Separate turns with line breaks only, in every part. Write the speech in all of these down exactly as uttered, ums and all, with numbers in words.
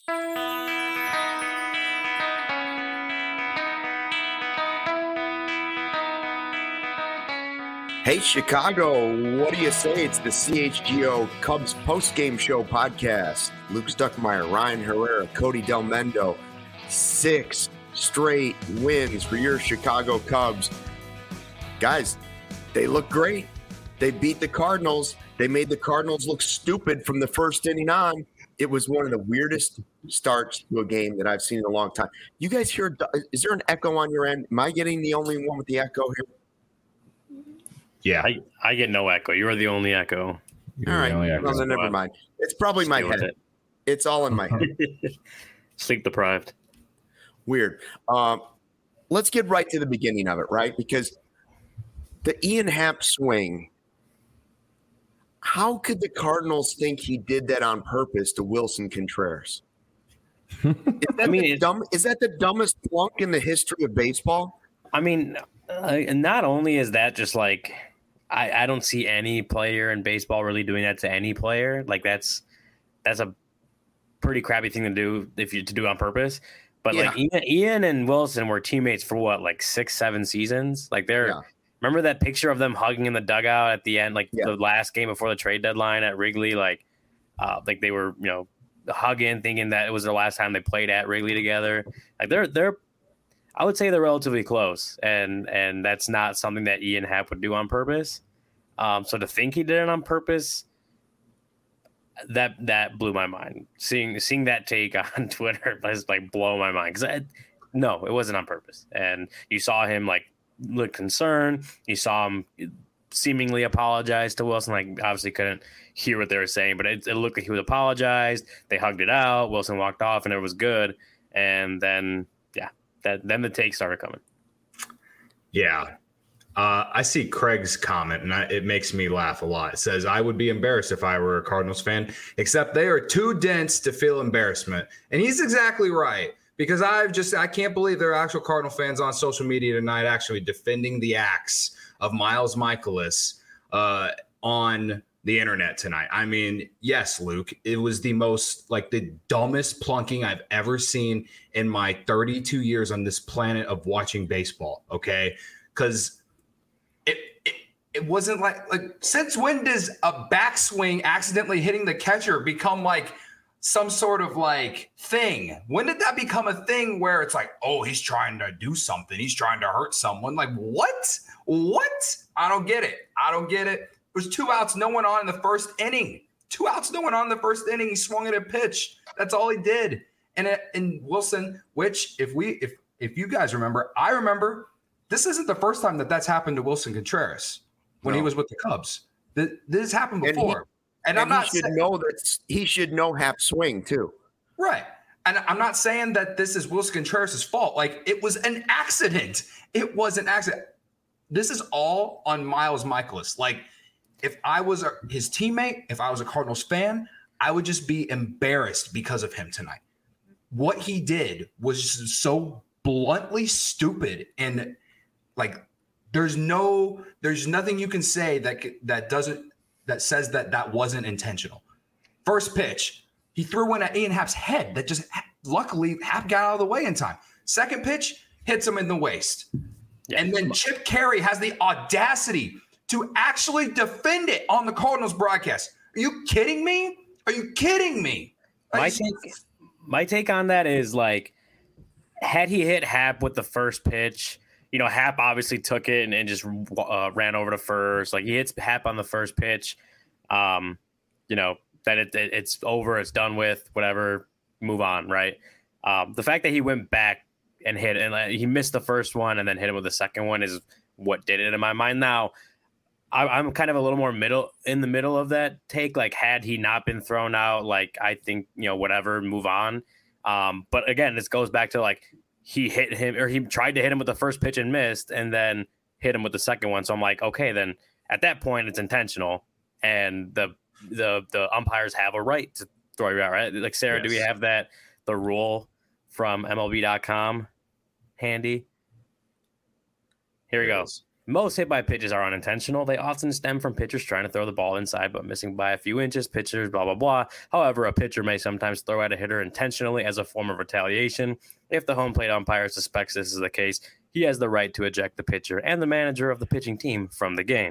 Hey, Chicago, what do you say? It's the C H G O Cubs post-game show podcast. Luke Stuckmeyer, Ryan Herrera, Cody Del Mendo. Six straight wins for your Chicago Cubs. Guys, they look great. They beat the Cardinals. They made the Cardinals look stupid from the first inning on. It was one of the weirdest starts to a game that I've seen in a long time. You guys hear, is there an echo on your end? Am I getting the only one with the echo here?
Yeah,
I, I get no echo. You're the only echo.
You're all right. Well, then never mind. It's probably my head. It. It's all in my head.
Sleep deprived.
Weird. Um, let's get right to the beginning of it, right? Because the Ian Happ swing, how could the Cardinals think he did that on purpose to Wilson Contreras? Is that, I mean, dumb, is that the dumbest flunk in the history of baseball?
I mean, uh, and not only is that just like – I, I don't see any player in baseball really doing that to any player. Like that's that's a pretty crappy thing to do if you to do on purpose. But yeah. like Ian, Ian and Wilson were teammates for what, like six, seven seasons. Like they're yeah. remember that picture of them hugging in the dugout at the end, like yeah. the last game before the trade deadline at Wrigley. Like, uh, like they were you know hugging, thinking that it was the last time they played at Wrigley together. Like they're they're. I would say they're relatively close, and and that's not something that Ian Happ would do on purpose. Um, so to think he did it on purpose, that that blew my mind. Seeing seeing that take on Twitter was like blow my mind because no, it wasn't on purpose. And you saw him like look concerned. You saw him seemingly apologize to Wilson. Like obviously couldn't hear what they were saying, but it, it looked like he was apologized. They hugged it out. Wilson walked off, and it was good. And then. That, then the take started coming.
Yeah. Uh, I see Craig's comment, and I, it makes me laugh a lot. It says, I would be embarrassed if I were a Cardinals fan, except they are too dense to feel embarrassment. And he's exactly right, because I've just – I can't believe there are actual Cardinal fans on social media tonight actually defending the acts of Miles Mikolas uh, on – the internet tonight. I mean, yes, Luke, it was the most like the dumbest plunking I've ever seen in my thirty-two years on this planet of watching baseball. Okay. Cause it, it, it wasn't like, like since when does a backswing accidentally hitting the catcher become like some sort of like thing? When did that become a thing where it's like, oh, he's trying to do something. He's trying to hurt someone. Like what? What? I don't get it. I don't get it. There was two outs, no one on in the first inning. Two outs, no one on in the first inning. He swung at a pitch. That's all he did. And and Wilson, which if we if if you guys remember, I remember this isn't the first time that that's happened to Wilson Contreras when no. he was with the Cubs. This, this has happened before. And, he, and, and I'm not
he should saying, know that he should know Happ swing too.
Right. And I'm not saying that this is Wilson Contreras' fault. Like it was an accident. It was an accident. This is all on Miles Mikolas. Like. If I was a, his teammate, if I was a Cardinals fan, I would just be embarrassed because of him tonight. What he did was just so bluntly stupid, and like there's no, there's nothing you can say that that doesn't that says that that wasn't intentional. First pitch, he threw in at Ian Happ's head that just luckily Happ got out of the way in time. Second pitch hits him in the waist, yeah. And then Chip Caray has the audacity to actually defend it on the Cardinals broadcast. Are you kidding me? Are you kidding me?
My take, my take on that is like, had he hit Happ with the first pitch, you know, Happ obviously took it and, and just uh, ran over to first. Like he hits Happ on the first pitch, um, you know, that it, it, it's over, it's done with, whatever, move on, right? Um, the fact that he went back and hit, and uh, he missed the first one and then hit him with the second one is what did it in my mind. Now, I'm kind of a little more middle in the middle of that take. Like, had he not been thrown out, like, I think, you know, whatever, move on. Um, but again, this goes back to like, he hit him or he tried to hit him with the first pitch and missed and then hit him with the second one. So I'm like, okay, then at that point it's intentional and the, the, the umpires have a right to throw you out, right? Like, Sarah, yes. Do we have that, the rule from M L B dot com handy? Here we go. most hit by pitches are unintentional. They often stem from pitchers trying to throw the ball inside but missing by a few inches. Pitchers, blah, blah, blah. However, a pitcher may sometimes throw at a hitter intentionally as a form of retaliation. If the home plate umpire suspects this is the case, he has the right to eject the pitcher and the manager of the pitching team from the game.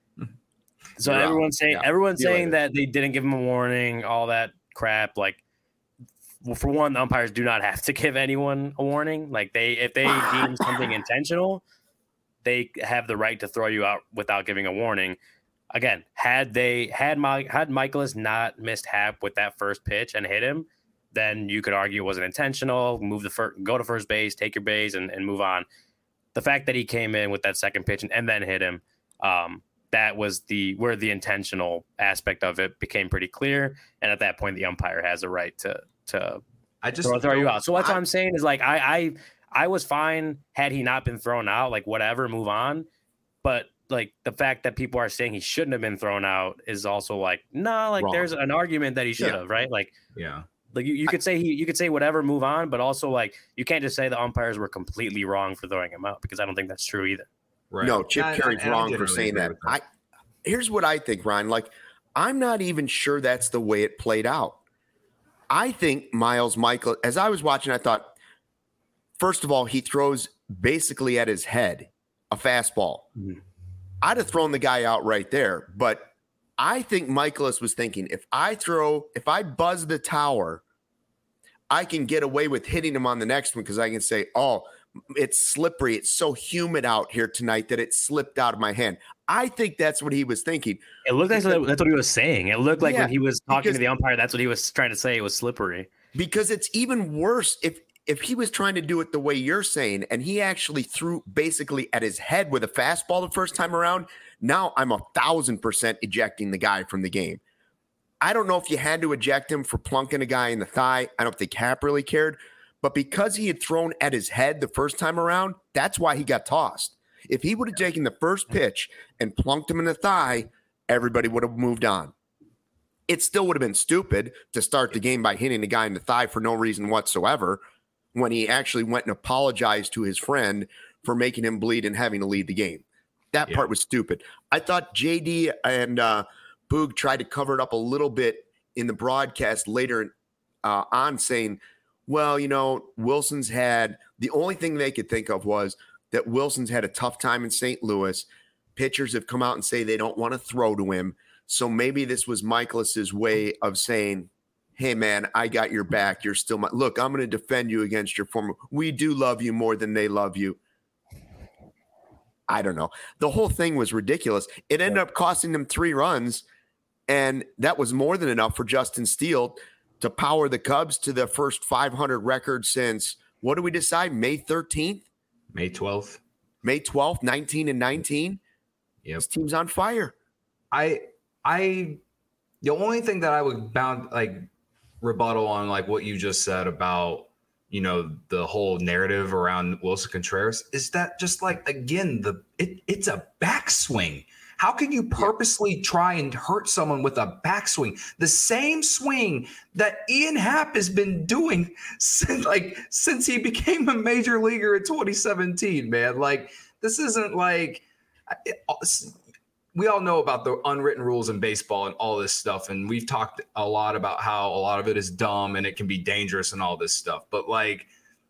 So yeah, everyone's saying yeah. everyone's saying that they didn't give him a warning, all that crap. Like, well, for one, the umpires do not have to give anyone a warning. Like, they if they deem something intentional, they have the right to throw you out without giving a warning. Again, had they had my had Michaelis not missed Happ with that first pitch and hit him, then you could argue it wasn't intentional. Move the first, go to first base, take your base, and, and move on. The fact that he came in with that second pitch and, and then hit him, um, that was the where the intentional aspect of it became pretty clear. And at that point, the umpire has a right to to
I just
throw, throw you out. So that's I, what I'm saying is like I I. I was fine had he not been thrown out, like whatever, move on. But like the fact that people are saying he shouldn't have been thrown out is also like, no, nah, like Wrong. There's an argument that he should yeah. have, right? Like,
yeah,
like you, you could say he, you could say whatever, move on, but also like you can't just say the umpires were completely wrong for throwing him out because I don't think that's true either.
Right. No, Chip yeah, Carey's wrong for saying that. I here's what I think, Ryan. Like, I'm not even sure that's the way it played out. I think Miles Michael, as I was watching, I thought, first of all, he throws basically at his head a fastball. Mm-hmm. I'd have thrown the guy out right there. But I think Michaelis was thinking, if I throw, if I buzz the tower, I can get away with hitting him on the next one because I can say, oh, it's slippery. It's so humid out here tonight that it slipped out of my hand. I think that's what he was thinking.
It looked like that's what he was saying. It looked like yeah, when he was talking because, to the umpire, that's what he was trying to say. It was slippery.
Because it's even worse if If he was trying to do it the way you're saying, and he actually threw basically at his head with a fastball the first time around, now I'm a thousand percent ejecting the guy from the game. I don't know if you had to eject him for plunking a guy in the thigh. I don't think Happ really cared. But because he had thrown at his head the first time around, that's why he got tossed. If he would have taken the first pitch and plunked him in the thigh, everybody would have moved on. It still would have been stupid to start the game by hitting the guy in the thigh for no reason whatsoever, when he actually went and apologized to his friend for making him bleed and having to leave the game. That yeah. part was stupid. I thought J D and uh, Boog tried to cover it up a little bit in the broadcast later uh, on, saying, well, you know, Wilson's had – the only thing they could think of was that Wilson's had a tough time in Saint Louis. Pitchers have come out and say they don't want to throw to him. So maybe this was Michaelis's way of saying – hey, man, I got your back. You're still my – look, I'm going to defend you against your former – we do love you more than they love you. I don't know. The whole thing was ridiculous. It ended up costing them three runs, and that was more than enough for Justin Steele to power the Cubs to the first five hundred record since – what do we decide, May thirteenth?
May twelfth.
May twelfth, nineteen and nineteen.
Yep.
This team's on fire.
I – I – the only thing that I would bound – like – rebuttal on like what you just said about, you know, the whole narrative around Wilson Contreras is that just like, again, the it, it's a backswing. How can you purposely try and hurt someone with a backswing? The same swing that Ian Happ has been doing since like since he became a major leaguer in twenty seventeen, man. Like, this isn't like it, we all know about the unwritten rules in baseball and all this stuff. And we've talked a lot about how a lot of it is dumb and it can be dangerous and all this stuff. But like,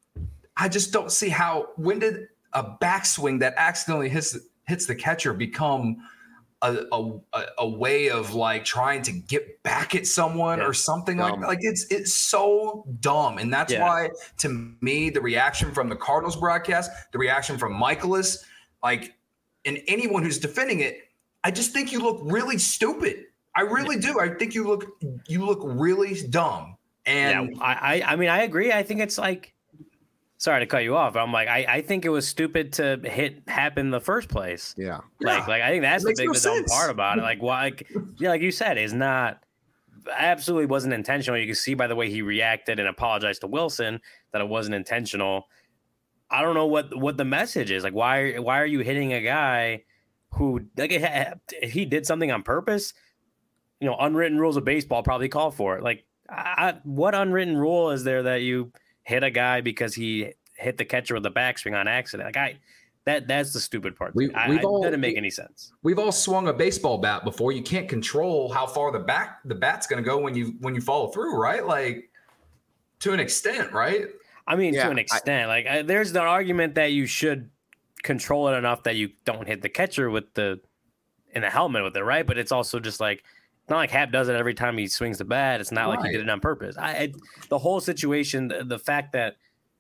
I just don't see how, when did a backswing that accidentally hits, hits the catcher become a, a, a way of like trying to get back at someone yeah. or something dumb. like that? Like it's, it's so dumb. And that's yeah. why, to me, the reaction from the Cardinals broadcast, the reaction from Michaelis, like, and anyone who's defending it, I just think you look really stupid. I really do. I think you look you look really dumb. And
yeah, I I mean I agree. I think it's like, sorry to cut you off. But I'm like I, I think it was stupid to hit Happ in the first place.
Yeah.
Like
yeah.
like I think that's the big
no
the dumb part about it. Like why? Like, yeah, like you said, is not absolutely wasn't intentional. You can see by the way he reacted and apologized to Wilson that it wasn't intentional. I don't know what what the message is. Like why why are you hitting a guy who, like, if he did something on purpose, you know, unwritten rules of baseball probably call for it. Like, I, what unwritten rule is there that you hit a guy because he hit the catcher with a backswing on accident? Like, I, That that's the stupid part.
We,
I,
we've
I,
all,
doesn't make
we,
any sense.
We've all swung a baseball bat before. You can't control how far the back the bat's going to go when you when you follow through, right? Like to an extent, right?
I mean,
yeah,
to an extent.
I,
like I, there's the argument that you should control it enough that you don't hit the catcher with the in the helmet with it, right? But it's also just like it's not like Hap does it every time he swings the bat. It's not right. like he did it on purpose. I, I the whole situation, the, the fact that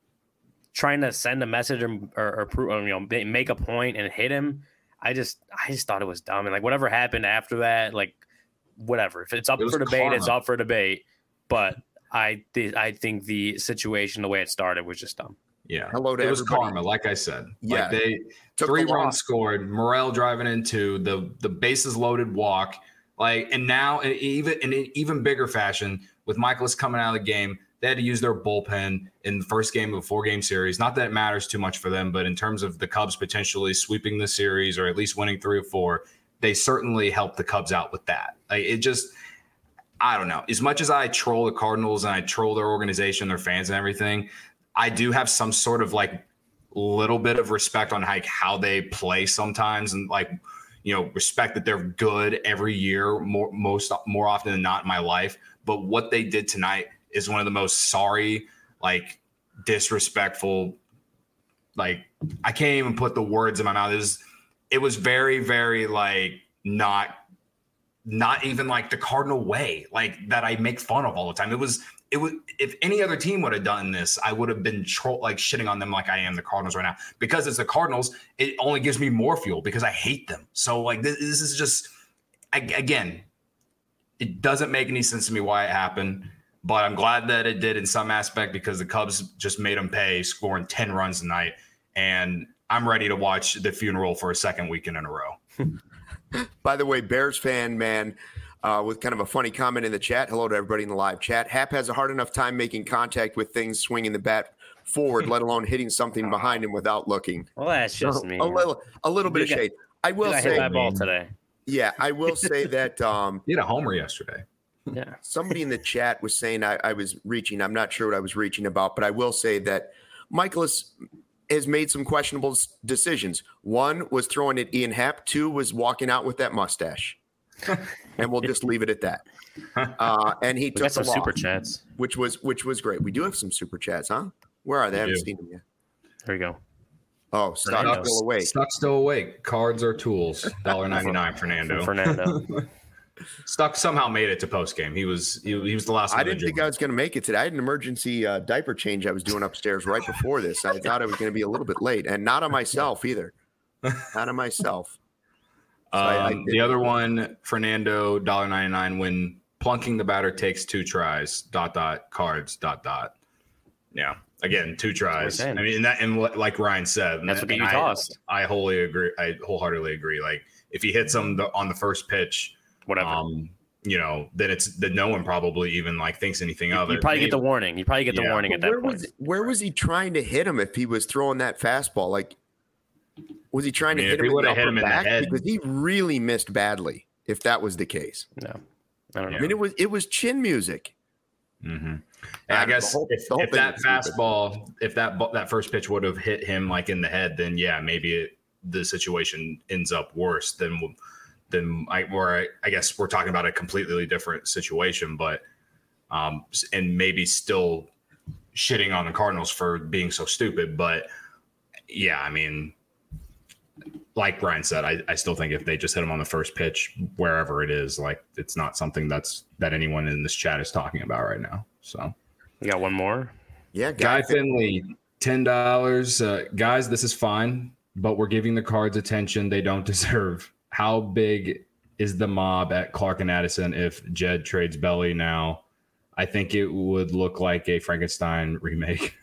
trying to send a message or, or, or you know make a point and hit him, I just I just thought it was dumb. And like whatever happened after that, like whatever. If it's up it for debate, karma. It's up for debate. But I th- I think the situation, the way it started, was just dumb.
Yeah.
Hello to
it was
everybody.
karma, like I said.
Yeah.
Like they Took three the runs scored, Morel driving into the the bases loaded walk. Like and now and even in an even bigger fashion with Michaelis coming out of the game. They had to use their bullpen in the first game of a four-game series. Not that it matters too much for them, but in terms of the Cubs potentially sweeping the series or at least winning three or four, they certainly helped the Cubs out with that. Like it just, I don't know. As much as I troll the Cardinals and I troll their organization, their fans and everything, I do have some sort of like little bit of respect on like how they play sometimes and like, you know, respect that they're good every year, more most more often than not in my life. But what they did tonight is one of the most sorry, like disrespectful, like I can't even put the words in my mouth. It was, it was very, very like not, not even like the Cardinal way, like that I make fun of all the time. It was, it was, if any other team would have done this, I would have been tro- like shitting on them like I am the Cardinals right now. Because it's the Cardinals, it only gives me more fuel because I hate them. So like this, this is just, I, again, it doesn't make any sense to me why it happened. But I'm glad that it did in some aspect because the Cubs just made them pay, scoring ten runs tonight. And I'm ready to watch the funeral for a second weekend in a row.
By the way, Bears fan, man, uh, with kind of a funny comment in the chat. Hello to everybody in the live chat. Hap has a hard enough time making contact with things swinging the bat forward, let alone hitting something behind him without looking.
Well, that's just
so,
me.
A little, a little bit of shade. I will
I
say
hit that ball today.
Yeah, I will say that. Um,
you had a homer yesterday.
Yeah.
Somebody in the chat was saying I, I was reaching. I'm not sure what I was reaching about, but I will say that Michaelis has made some questionable decisions. One was throwing at Ian Happ. Two was walking out with that mustache. And we'll just leave it at that. Uh, and he
we
took
got some
the
super
loss,
chats,
which was which was great. We do have some super chats, huh? Where are they? I haven't
do.
seen them yet.
There we go.
Oh, Stock's still awake.
Stock's still awake. Cards are tools. one dollar ninety-nine, Fernando.
Fernando.
Stuck somehow made it to post game. He was he, he was the last.
I didn't think I was going to make it today. I had an emergency uh, diaper change I was doing upstairs right before this. I thought I was going to be a little bit late, and not on myself either. Not on myself. So
um,
I, I
the other one, Fernando, one dollar ninety-nine. When plunking the batter takes two tries. Dot dot cards. Dot dot. Yeah. Again, two tries. I mean, and that and what, like Ryan said,
that's
that,
what you
I,
tossed.
I wholly agree. I wholeheartedly agree. Like if he hits him the, on the first pitch.
Whatever.
Um, you know, then it's that no one probably even like thinks anything of
you
it.
You probably
Maybe.
get the warning. You probably get the
Yeah.
warning at that
where
point.
Was, where was he trying to hit him if he was throwing that fastball? Like, was he trying
I mean,
to hit
if
him,
he
in the,
would've hit him in the
back?
head.
Because he really missed badly if that was the case.
No, I don't know.
I mean, it was it was chin music.
Mm-hmm. And
Yeah,
I guess
the whole-
if,
the whole
if
thing
that
was stupid.
fastball, if that bu- that first pitch would have hit him like in the head, then yeah, maybe it, the situation ends up worse than than I. Where I, I guess we're talking about a completely different situation, but um, and maybe still shitting on the Cardinals for being so stupid. But yeah, I mean, like Brian said, I, I still think if they just hit him on the first pitch, wherever it is, like it's not something that's that anyone in this chat is talking about right now. So
You got one more?
Yeah,
Guy Finley, ten dollars. Uh, guys, this is fine, but we're giving the Cards attention they don't deserve. How big is the mob at Clark and Addison if Jed trades Belly now? I think it would look like a Frankenstein remake.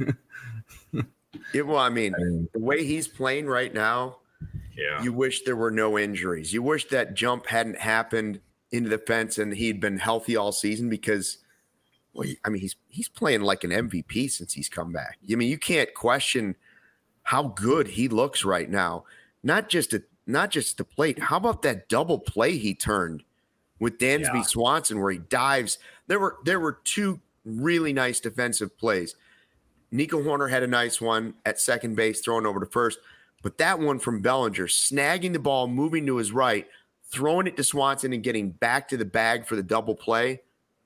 It, well, I mean, the way he's playing right now,
Yeah.
you wish there were no injuries. You wish that jump hadn't happened into the fence and he'd been healthy all season because, well, he- I mean, he's he's playing like an M V P since he's come back. I mean, you can't question how good he looks right now. Not just at not just the plate. How about that double play he turned with Dansby
Yeah.
Swanson where he dives? There were there were two really nice defensive plays. Nico Horner had a nice one at second base, throwing over to first. But that one from Bellinger, snagging the ball, moving to his right, throwing it to Swanson and getting back to the bag for the double play.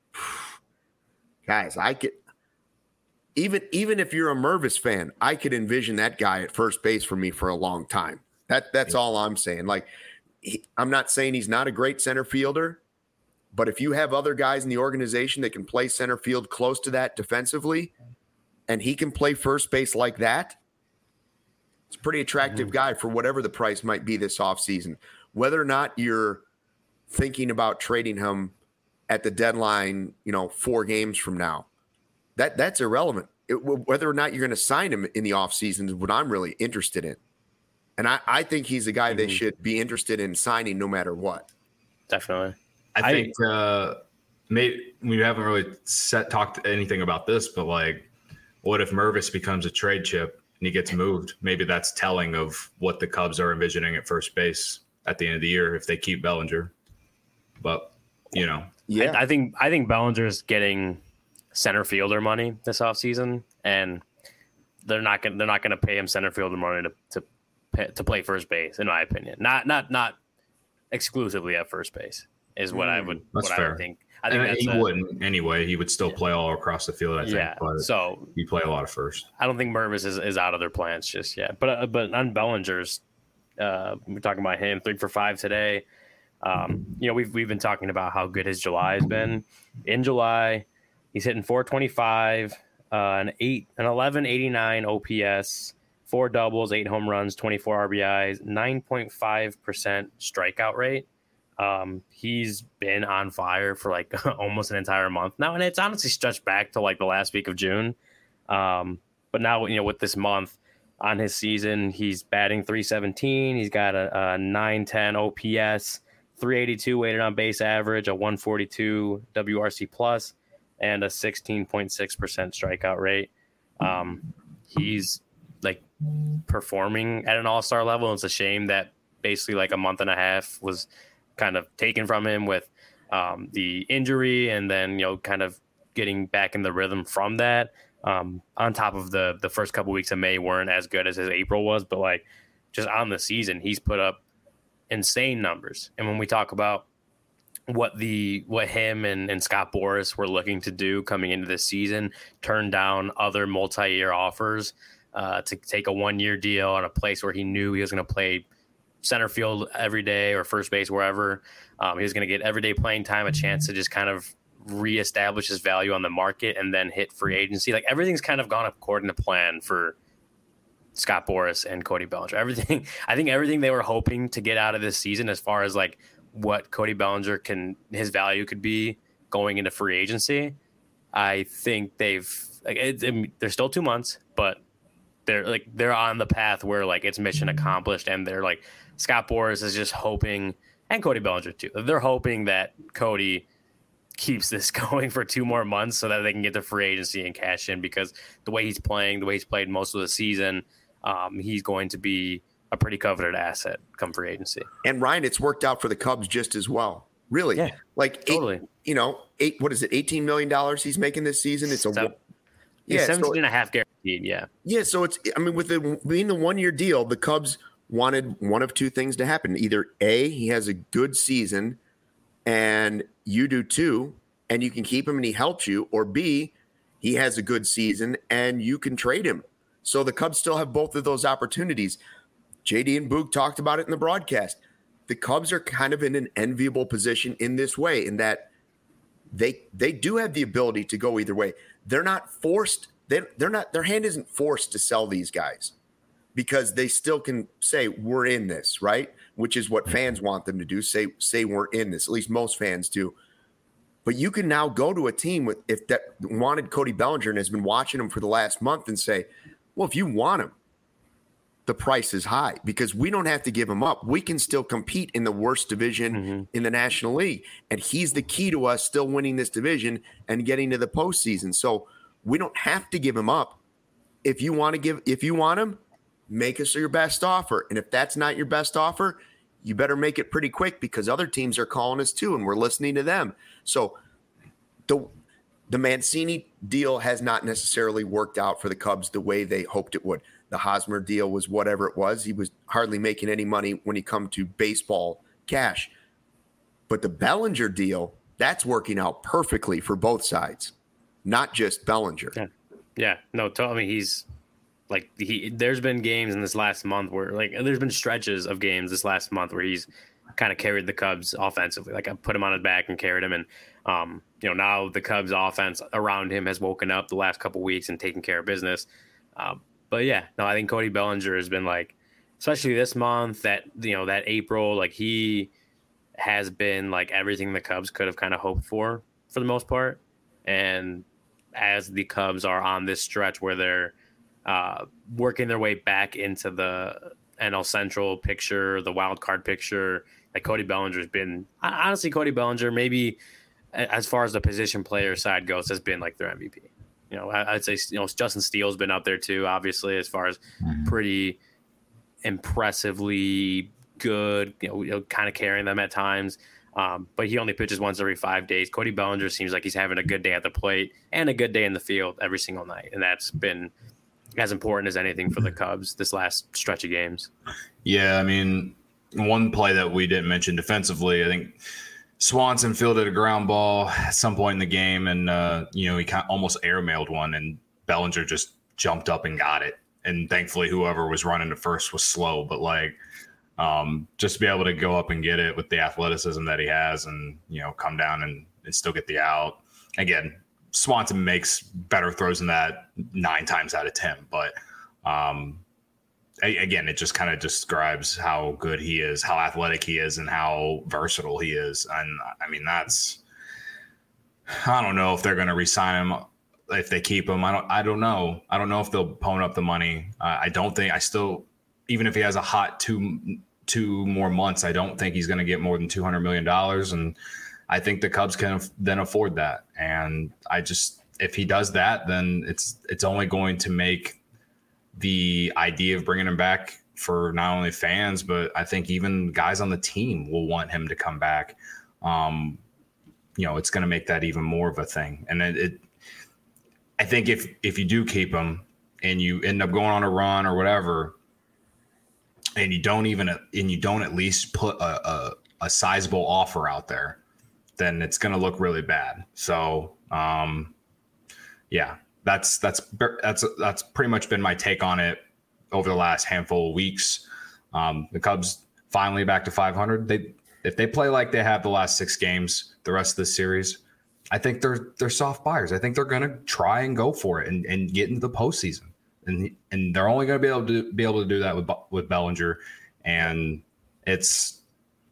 Guys, I could even even if you're a Mervis fan, I could envision that guy at first base for me for a long time. That that's all I'm saying. Like, he, I'm not saying he's not a great center fielder, but if you have other guys in the organization that can play center field close to that defensively, and he can play first base like that, it's a pretty attractive mm-hmm. guy for whatever the price might be this offseason. Whether or not you're thinking about trading him at the deadline, you know, four games from now, that that's irrelevant. It, whether or not you're going to sign him in the offseason is what I'm really interested in. And I, I think he's a guy mm-hmm. they should be interested in signing no matter what.
Definitely.
I think I, uh, maybe we haven't really set talked anything about this, but like, what if Mervis becomes a trade chip and he gets moved? Maybe that's telling of what the Cubs are envisioning at first base at the end of the year if they keep Bellinger. But, you know.
Yeah, I, I think I think Bellinger's getting center fielder money this offseason, and they're not going they're not going to pay him center fielder money to to pay, to play first base, in my opinion. Not not not exclusively at first base is what mm, I would
that's
what
fair.
I would think. I think
and
that's
he
a,
wouldn't anyway. He would still
yeah.
play all across the field, I think.
Yeah,
but
so
he play a lot of first.
I don't think Mervis is, is out of their plans just yet. But uh, but on Bellinger's, uh, we're talking about him three for five today. Um, you know, we've we've been talking about how good his July has been. In July, he's hitting four twenty-five, uh, an eight, an eleven eighty-nine O P S, four doubles, eight home runs, twenty-four R B Is, nine point five percent strikeout rate. Um, he's been on fire for like almost an entire month now, and it's honestly stretched back to like the last week of June. Um, but now, you know, with this month on his season, he's batting three seventeen. He's got a, a nine ten O P S, three eighty-two weighted on base average, a one forty-two W R C plus, and a sixteen point six percent strikeout rate. Um, he's like performing at an all-star level. It's a shame that basically like a month and a half was kind of taken from him with um, the injury, and then, you know, kind of getting back in the rhythm from that. Um, on top of the the first couple weeks of May weren't as good as his April was, but like just on the season, he's put up insane numbers. And when we talk about what the what him and, and Scott Boras were looking to do coming into this season, turn down other multi-year offers uh, to take a one-year deal on a place where he knew he was going to play center field every day or first base, wherever. Um, he was going to get everyday playing time, a chance to just kind of reestablish his value on the market and then hit free agency. Like, everything's kind of gone according to plan for Scott Boras and Cody Bellinger. Everything, I think everything they were hoping to get out of this season as far as like what Cody Bellinger can, his value could be going into free agency. I think they've, like, it, it, there's still two months, but they're like, they're on the path where like it's mission accomplished, and they're like, Scott Boras is just hoping, and Cody Bellinger too, they're hoping that Cody keeps this going for two more months so that they can get to free agency and cash in, because the way he's playing, the way he's played most of the season, um, he's going to be a pretty coveted asset come free agency.
And Ryan, it's worked out for the Cubs just as well. Really?
Yeah,
like
totally.
Eight, you know, eight, what is it? eighteen million dollars he's making this season. It's a,
so,
yeah,
seventeen
so,
and a half guaranteed. Yeah.
Yeah. So it's, I mean, with the being the one year deal, the Cubs wanted one of two things to happen. Either A, he has a good season and you do too, and you can keep him and he helps you, or B, he has a good season and you can trade him. So the Cubs still have both of those opportunities. J D and Boog talked about it in the broadcast. The Cubs are kind of in an enviable position in this way, in that they they do have the ability to go either way. They're not forced. They, they're not. Their hand isn't forced to sell these guys, because they still can say we're in this, right? Which is what fans want them to do. Say say we're in this. At least most fans do. But you can now go to a team with if that wanted Cody Bellinger and has been watching him for the last month and say, well, if you want him, the price is high, because we don't have to give him up. We can still compete in the worst division mm-hmm. in the National League. And he's the key to us still winning this division and getting to the postseason. So we don't have to give him up. If you want to give, if you want him, make us your best offer. And if that's not your best offer, you better make it pretty quick, because other teams are calling us too, and we're listening to them. So the the Mancini deal has not necessarily worked out for the Cubs the way they hoped it would. The Hosmer deal was whatever it was. He was hardly making any money when he come to baseball cash. But the Bellinger deal, that's working out perfectly for both sides, not just Bellinger.
Yeah, yeah. No, I mean, he's like he. There's been games in this last month where like there's been stretches of games this last month where he's kind of carried the Cubs offensively. Like I put him on his back and carried him, and um, you know, now the Cubs offense around him has woken up the last couple weeks and taken care of business. Um, but yeah, no, I think Cody Bellinger has been like, especially this month, that you know that April, like he has been like everything the Cubs could have kind of hoped for for the most part. And as the Cubs are on this stretch where they're uh, working their way back into the N L Central picture, the wild card picture, like Cody Bellinger's been honestly Cody Bellinger, maybe as far as the position player side goes, has been like their M V P. You know, I'd say, you know, Justin Steele's been up there too, obviously, as far as pretty impressively good, you know, you know kind of carrying them at times. Um, but he only pitches once every five days. Cody Bellinger seems like he's having a good day at the plate and a good day in the field every single night. And that's been as important as anything for the Cubs this last stretch of games.
Yeah, I mean, one play that we didn't mention defensively, I think Swanson fielded a ground ball at some point in the game, and, uh, you know, he kind of almost airmailed one, and Bellinger just jumped up and got it. And thankfully, whoever was running to first was slow, but like, Um, just to be able to go up and get it with the athleticism that he has and, you know, come down and, and still get the out. Again, Swanson makes better throws than that nine times out of ten. But, um, a, again, it just kind of describes how good he is, how athletic he is, and how versatile he is. And, I mean, that's – I don't know if they're going to re-sign him if they keep him. I don't I don't know. I don't know if they'll pony up the money. Uh, I don't think – I still – even if he has a hot two two more months, I don't think he's going to get more than two hundred million dollars. And I think the Cubs can then afford that. And I just, if he does that, then it's, it's only going to make the idea of bringing him back for not only fans, but I think even guys on the team will want him to come back. Um, you know, it's going to make that even more of a thing. And it, it I think if, if you do keep him and you end up going on a run or whatever, and you don't even and you don't at least put a, a, a sizable offer out there, then it's going to look really bad. So, um, yeah, that's that's that's that's pretty much been my take on it over the last handful of weeks. Um, the Cubs finally back to five hundred. They if they play like they have the last six games, the rest of the series, I think they're they're soft buyers. I think they're going to try and go for it and, and get into the postseason. And and they're only going to be able to be able to do that with with Bellinger, and it's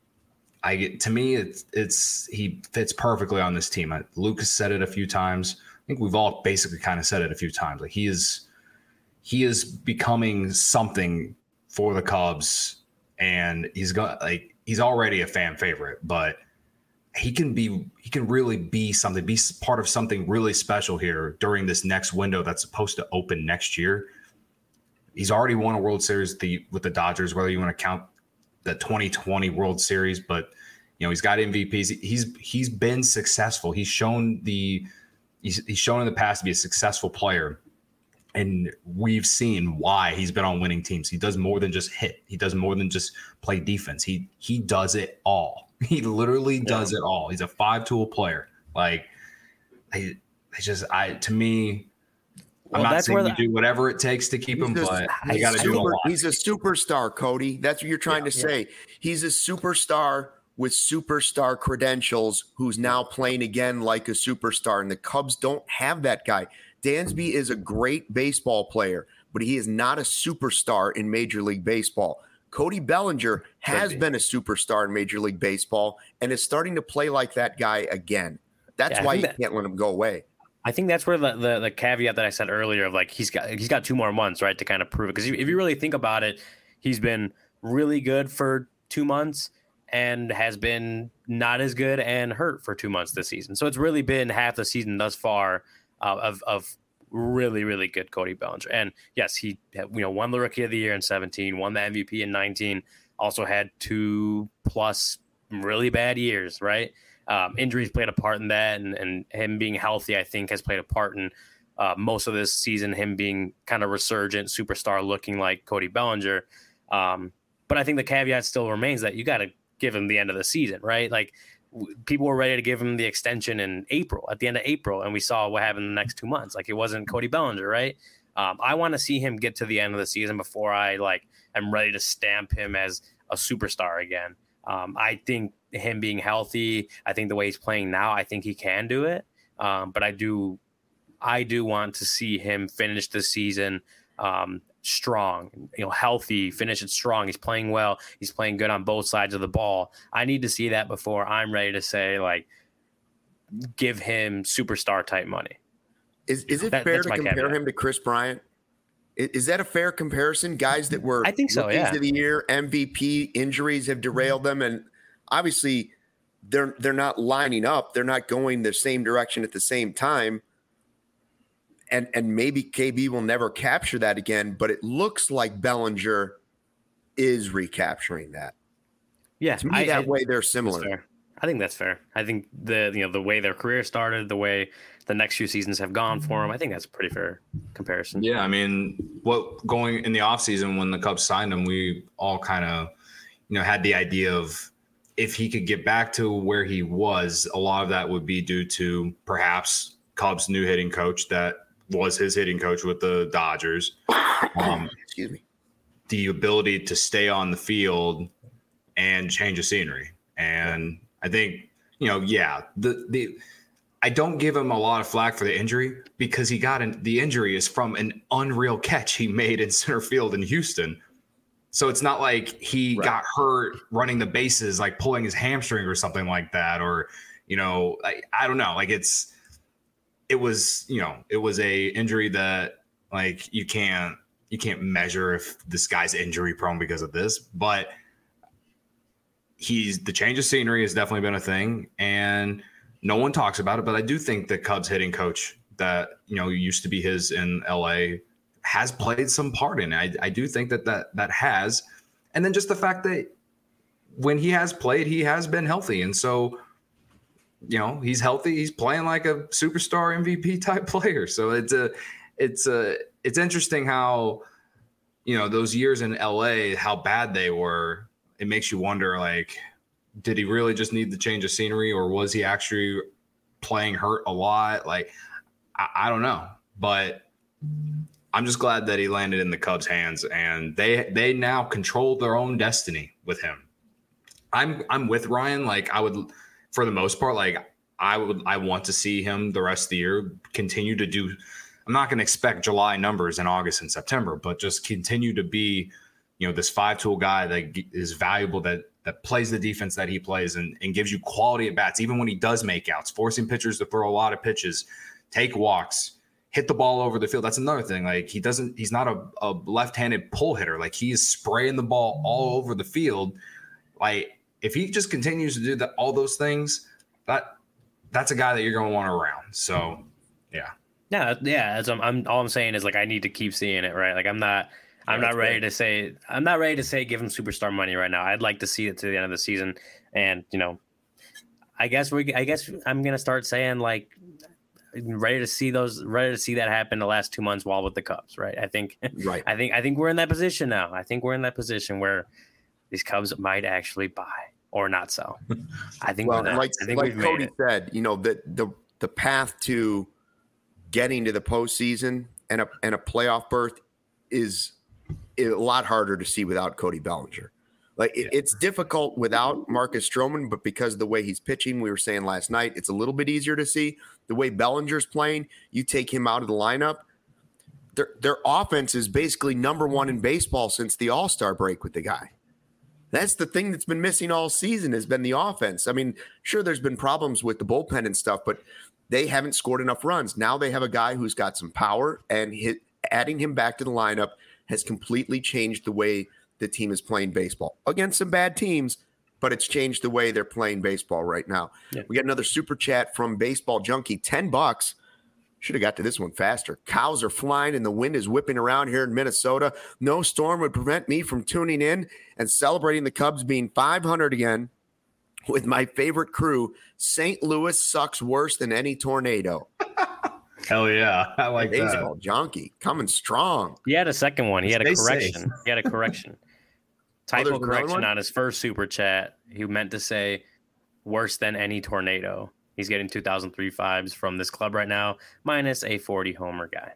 I get to me it's it's he fits perfectly on this team. Lucas said it a few times. I think we've all basically kind of said it a few times. Like he is he is becoming something for the Cubs, and he's got like he's already a fan favorite, but he can be he can really be something, be part of something really special here during this next window that's supposed to open next year. He's already won a World Series the, with the Dodgers, whether you want to count the twenty twenty World Series, but you know, he's got M V Ps. He's he's been successful. He's shown the he's, he's shown in the past to be a successful player. And we've seen why he's been on winning teams. He does more than just hit. He does more than just play defense. He he does it all. He literally yeah. does it all. He's a five-tool player. Like, I, I just, I to me, well, I'm not saying you the, do whatever it takes to keep him, a, but you got to do a lot.
He's a superstar, Cody. That's what you're trying yeah, to say. Yeah. He's a superstar with superstar credentials who's now playing again like a superstar, and the Cubs don't have that guy. Dansby is a great baseball player, but he is not a superstar in Major League Baseball. Cody Bellinger has been a superstar in Major League Baseball and is starting to play like that guy again. That's yeah, why you that, can't let him go away.
I think that's where the, the the caveat that I said earlier of like he's got he's got two more months, right, to kind of prove it. Because if you really think about it, he's been really good for two months and has been not as good and hurt for two months this season. So it's really been half the season thus far uh, of of. really, really good Cody Bellinger. And yes, he you know won the Rookie of the Year in seventeen, won the M V P in nineteen, also had two plus really bad years, right? Um, injuries played a part in that, and, and him being healthy, I think, has played a part in uh, most of this season, him being kind of resurgent superstar looking like Cody Bellinger. Um, but I think the caveat still remains that you got to give him the end of the season, right? Like, w- people were ready to give him the extension in April, at the end of April, and we saw what happened in the next two months. Like, it wasn't Cody Bellinger, right? Um, I want to see him get to the end of the season before I like am ready to stamp him as a superstar again. Um, I think him being healthy, I think the way he's playing now, I think he can do it. Um, but I do, I do want to see him finish the season um, strong, you know, healthy, finish it strong. He's playing well. He's playing good on both sides of the ball. I need to see that before I'm ready to say, like, give him superstar type money.
Is is it
That-
fair
that's
to
my
compare
caveat.
him to Chris Bryant? I- Is that a fair comparison? Guys that were
I think so,
rookies
yeah.
of the year, M V P, injuries have derailed them, and obviously they're they're not lining up. They're not going the same direction at the same time. And and maybe K B will never capture that again, but it looks like Bellinger is recapturing that.
Yeah,
To me,
I-
that
I-
way they're
That's
similar.
fair. I think that's fair. I think the you know the way their career started, the way the next few seasons have gone for him, I think that's a pretty fair comparison.
Yeah, I mean, what going in the offseason when the Cubs signed him, we all kind of, you know, had the idea of if he could get back to where he was, a lot of that would be due to perhaps Cubs' new hitting coach that was his hitting coach with the Dodgers. Um,
Excuse me.
the ability to stay on the field and change the scenery. And I think, you know, yeah, the the I don't give him a lot of flack for the injury because he got in, the injury is from an unreal catch he made in center field in Houston. So it's not like he
Right.
got hurt running the bases, like pulling his hamstring or something like that. Or, you know, I, I don't know. Like it's, it was, you know, it was a injury that like you can't, you can't measure if this guy's injury prone because of this, but he's the change of scenery has definitely been a thing. And no one talks about it, but I do think the Cubs hitting coach that, you know, used to be his in L A has played some part in it. I, I do think that, that that has. And then just the fact that when he has played, he has been healthy. And so, you know, he's healthy. He's playing like a superstar M V P type player. So it's a, it's a, it's interesting how, you know, those years in L A, how bad they were. It makes you wonder, like, did he really just need the change of scenery, or was he actually playing hurt a lot? Like, I, I don't know, but I'm just glad that he landed in the Cubs' hands, and they they now control their own destiny with him. I'm I'm with Ryan. Like, I would, for the most part, like I would I want to see him the rest of the year continue to do. I'm not going to expect July numbers in August and September, but just continue to be, you know, this five-tool guy that is valuable, that that plays the defense that he plays and, and gives you quality at bats, even when he does make outs, forcing pitchers to throw a lot of pitches, take walks, hit the ball over the field. That's another thing. Like, he doesn't, he's not a, a left-handed pull hitter. Like, he is spraying the ball all over the field. Like, if he just continues to do that, all those things, that that's a guy that you're going to want around. So, yeah.
Yeah, yeah. As I'm, I'm, all I'm saying is like I need to keep seeing it, right? Like I'm not, I'm
Yeah,
not ready
fair.
to say, I'm not ready to say give him superstar money right now. I'd like to see it to the end of the season, and you know, I guess we, I guess I'm gonna start saying like, ready to see those, ready to see that happen the last two months while with the Cubs, right? I think,
Right.
I think, I think we're in that position now. I think we're in that position where these Cubs might actually buy or not sell. I think.
Well,
we're there.
like,
I think
like
we've made
Cody
it.
said, you know, the, the the path to getting to the postseason and a and a playoff berth is a lot harder to see without Cody Bellinger. Like it, it's difficult without Marcus Stroman, but because of the way he's pitching, we were saying last night, it's a little bit easier to see. The way Bellinger's playing, you take him out of the lineup, their their offense is basically number one in baseball since the All-Star break with the guy. That's the thing that's been missing all season has been the offense. I mean, sure, there's been problems with the bullpen and stuff, but they haven't scored enough runs. Now they have a guy who's got some power, and hit, adding him back to the lineup has completely changed the way the team is playing baseball against some bad teams, but it's changed the way they're playing baseball right now.
Yeah.
We got another super chat from Baseball Junkie, ten bucks. Should have got to this one faster. Cows are flying and the wind is whipping around here in Minnesota. No storm would prevent me from tuning in and celebrating the Cubs being five hundred again. with my favorite crew, Saint Louis sucks worse than any tornado.
Hell yeah. I like
Baseball
that.
junkie coming strong.
He had a second one. He had a
Stay
correction.
safe.
He had a correction. Typo
there's another
correction
one?
on his first super chat. He meant to say worse than any tornado. He's getting two thousand three vibes from this club right now, minus a forty homer guy.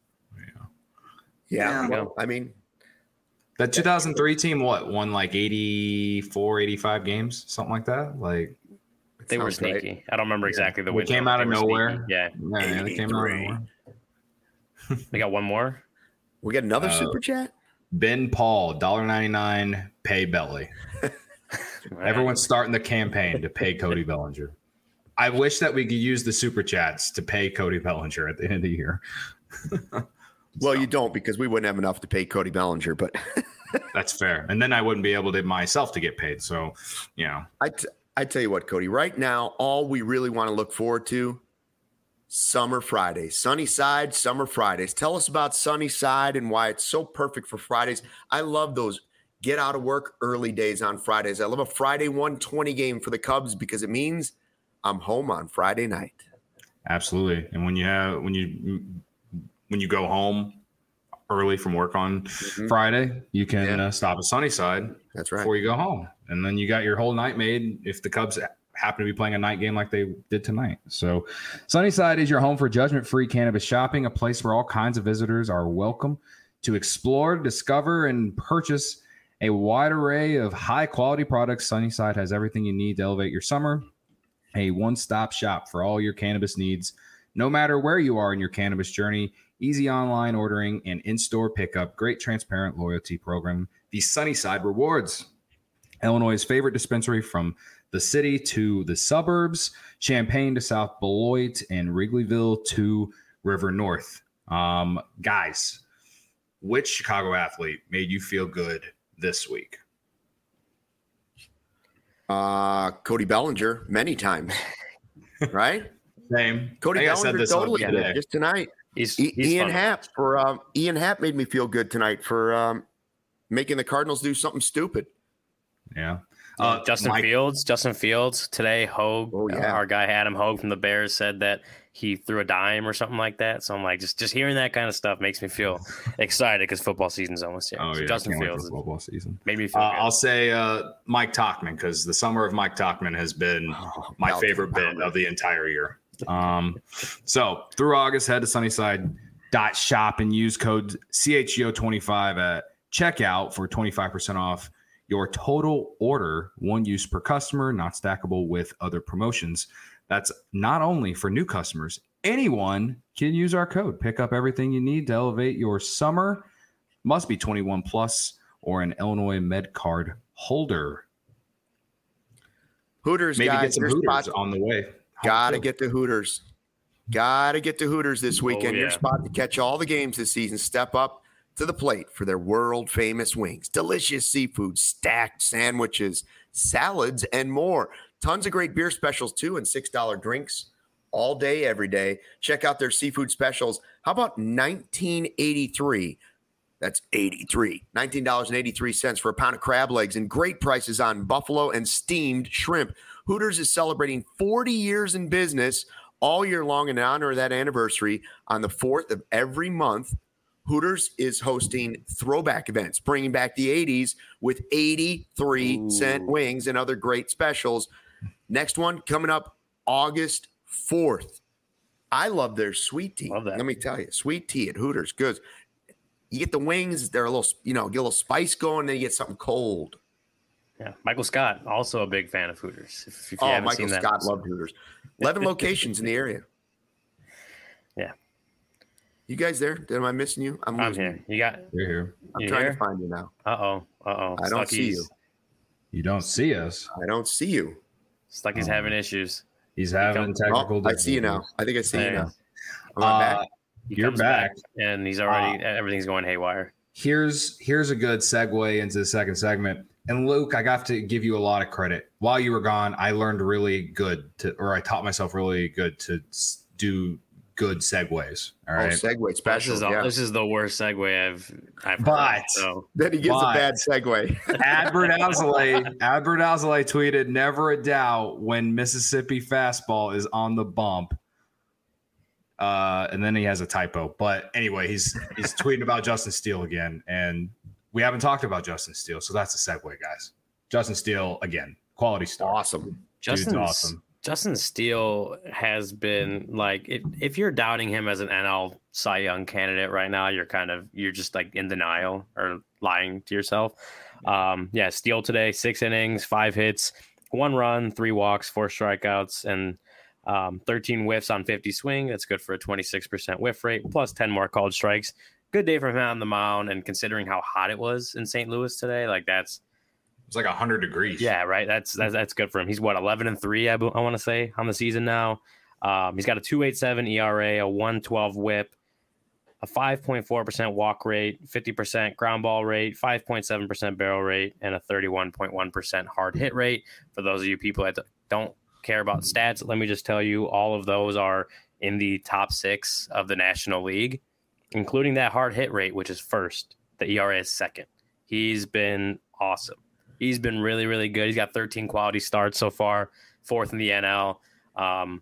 Yeah,
There you
well,
go.
I mean,
That two thousand three team, what, won like eighty-four, eighty-five games, something like that? Like,
They were
sounds right.
sneaky. I don't remember exactly the
They
win.
came
total,
out
but
of
they were
nowhere.
sneaky. Yeah.
yeah, yeah, they came out of
eighty-three.
nowhere.
They got one more.
We got another
Uh,
super chat.
Ben Paul, one dollar ninety-nine, pay Belly. Everyone's starting the campaign to pay Cody Bellinger. I wish that we could use the super chats to pay Cody Bellinger at the end of the year.
Well, you don't because we wouldn't have enough to pay Cody Bellinger, but
That's fair. And then I wouldn't be able to myself to get paid. So, you know,
I, t- I tell you what, Cody, right now, all we really want to look forward to, Summer Fridays, Sunny Side, Summer Fridays. Tell us about Sunny Side and why it's so perfect for Fridays. I love those get out of work early days on Fridays. I love a Friday one twenty game for the Cubs because it means I'm home on Friday night.
absolutely. And when you have, when you, when you go home early from work on
Mhm.
Friday, you can
Yeah.
uh, stop at Sunnyside
That's right.
before you go home. And then you got your whole night made if the Cubs happen to be playing a night game like they did tonight. So Sunnyside is your home for judgment-free cannabis shopping, a place where all kinds of visitors are welcome to explore, discover, and purchase a wide array of high-quality products. Sunnyside has everything you need to elevate your summer, a one-stop shop for all your cannabis needs. No matter where you are in your cannabis journey, easy online ordering and in-store pickup, great transparent loyalty program, the Sunnyside Rewards. Illinois' favorite dispensary from the city to the suburbs, Champaign to South Beloit, and Wrigleyville to River North. Um, guys, which Chicago athlete made you feel good this week?
Uh, Cody Bellinger, many times, right?
Same.
Cody
I think I said
Bellinger
this on
totally did
today.
it just tonight.
He's,
E-
he's
Ian
fun.
Happ for um, Ian Happ made me feel good tonight for um, making the Cardinals do something stupid.
Yeah.
Uh, Justin
Mike-
Fields, Justin Fields today, Hogue,
Oh, yeah.
our guy Adam Hogue from the Bears said that he threw a dime or something like that. So I'm like, just just hearing that kind of stuff makes me feel excited because football season's almost here.
Oh,
so
yeah.
Justin
Can't wait for
Fields
football season.
made me feel
Uh,
good.
I'll say uh, Mike Tachman because the summer of Mike Tachman has been
Oh,
my
Belgian
favorite bit
Pounder.
of the entire year. Um, so through August, head to Sunnyside dot shop and use code C H G O twenty-five at checkout for twenty-five percent off your total order, one use per customer, not stackable with other promotions. That's not only for new customers. Anyone can use our code. Pick up everything you need to elevate your summer. Must be twenty-one plus or an Illinois Med Card holder.
Hooters,
Maybe
guys,
get some
your
Hooters
spot-
on the way.
Gotta get the Hooters. Gotta get the Hooters this weekend.
yeah.
Your spot to catch all the games this season. Step up to the plate for their world famous wings, delicious seafood, stacked sandwiches, salads, and more. Tons of great beer specials too, and six dollar drinks all day, every day. Check out their seafood specials. How about nineteen eighty-three? That's eighty-three. nineteen dollars and eighty-three cents for a pound of crab legs and great prices on buffalo and steamed shrimp. Hooters is celebrating forty years in business all year long in honor of that anniversary. On the fourth of every month, Hooters is hosting throwback events, bringing back the eighties with eighty-three cent wings and other great specials. Next one coming up August fourth. I love their sweet tea.
Love that.
Let me tell you, sweet tea at Hooters, good. You get the wings, they're a little, you know, get a little spice going, then you get something cold.
Yeah, Michael Scott, also a big fan of Hooters. If, if you
Oh,
haven't
Michael
seen that,
Scott loved Hooters. eleven locations in the area.
Yeah.
You guys there? Am I missing you? I'm,
I'm
losing
here.
you.
You got?
You're here.
I'm
You
trying
here?
to find you now.
Uh oh. Uh oh.
I don't see you.
You don't see us.
I don't see you.
Stucky's
Oh.
having issues.
He's having
come-
technical
Oh, I see you now.
difficulties.
I think I see
There
you
he
now.
is.
Am I back?
Uh,
He
You're
comes
back.
and he's already everything's going haywire.
here's here's a good segue into the second segment. And Luke, I got to give you a lot of credit. While you were gone, I learned really good to, or I taught myself really good to s- do good segues. All
Oh,
right.
segue special.
This is,
yeah.
this is the worst segue I've I've heard.
But-
So
Then he gives
But-
a bad segue.
Adbert Alzolay, Adbert Alzolay tweeted, "Never a doubt when Mississippi fastball is on the bump." Uh, and then he has a typo. But anyway, he's he's tweeting about Justin Steele again, and we haven't talked about Justin Steele, so that's a segue, guys. Justin Steele again, quality star.
Awesome.
Justin's
awesome.
Justin Steele has been like, if, if you're doubting him as an N L Cy Young candidate right now, you're kind of, you're just like in denial or lying to yourself. Um, yeah, Steele today, six innings, five hits, one run, three walks, four strikeouts, and um, thirteen whiffs on fifty swing. That's good for a twenty-six percent whiff rate, plus ten more called strikes. Good day for him on the mound, and considering how hot it was in Saint Louis today, like that's,
It's like one hundred degrees.
yeah, right. That's that's, that's good for him. He's what, eleven and three, I, I want to say, on the season now. Um, he's got a two point eight seven E R A, a one twelve whip, a five point four percent walk rate, fifty percent ground ball rate, five point seven percent barrel rate, and a thirty-one point one percent hard hit rate. For those of you people that don't care about stats, let me just tell you, all of those are in the top six of the National League, including that hard hit rate, which is first. The E R A is second. He's been awesome. He's been really, really good. He's got thirteen quality starts so far, fourth in the N L. Um,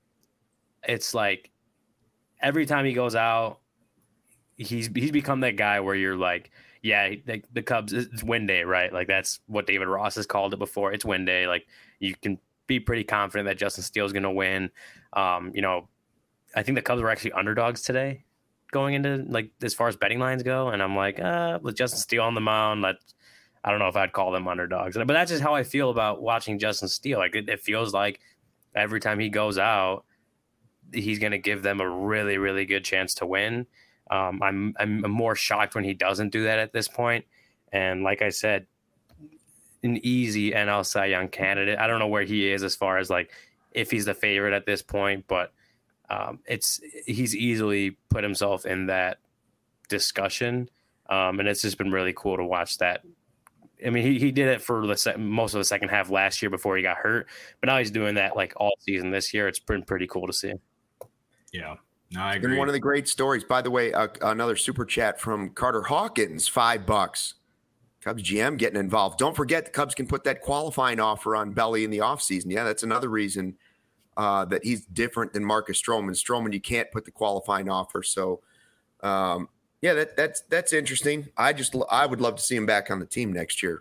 it's like every time he goes out, he's he's become that guy where you're like, yeah, the, the Cubs, it's win day, right? Like that's what David Ross has called it before. It's win day. Like you can be pretty confident that Justin Steele is going to win. Um, you know, I think the Cubs were actually underdogs today going into like as far as betting lines go, and I'm like, uh, with Justin Steele on the mound, let I don't know if I'd call them underdogs, but that's just how I feel about watching Justin Steele. Like it, it feels like every time he goes out, he's going to give them a really, really good chance to win. Um, I'm I'm more shocked when he doesn't do that at this point. And like I said, an easy N L Cy Young candidate. I don't know where he is as far as like if he's the favorite at this point, but um, it's he's easily put himself in that discussion, um, and it's just been really cool to watch that. I mean, he, he did it for the se- most of the second half last year before he got hurt, but now he's doing that like all season this year. It's been pretty cool to see.
Yeah, no, I
Been
agree.
one of the great stories. By the way, uh, another super chat from Carter Hawkins, five bucks. Cubs G M getting involved. Don't forget the Cubs can put that qualifying offer on Belly in the offseason. Yeah, that's another reason uh, that he's different than Marcus Stroman. Stroman, you can't put the qualifying offer. So, um, yeah, that that's that's interesting. I just I would love to see him back on the team next year.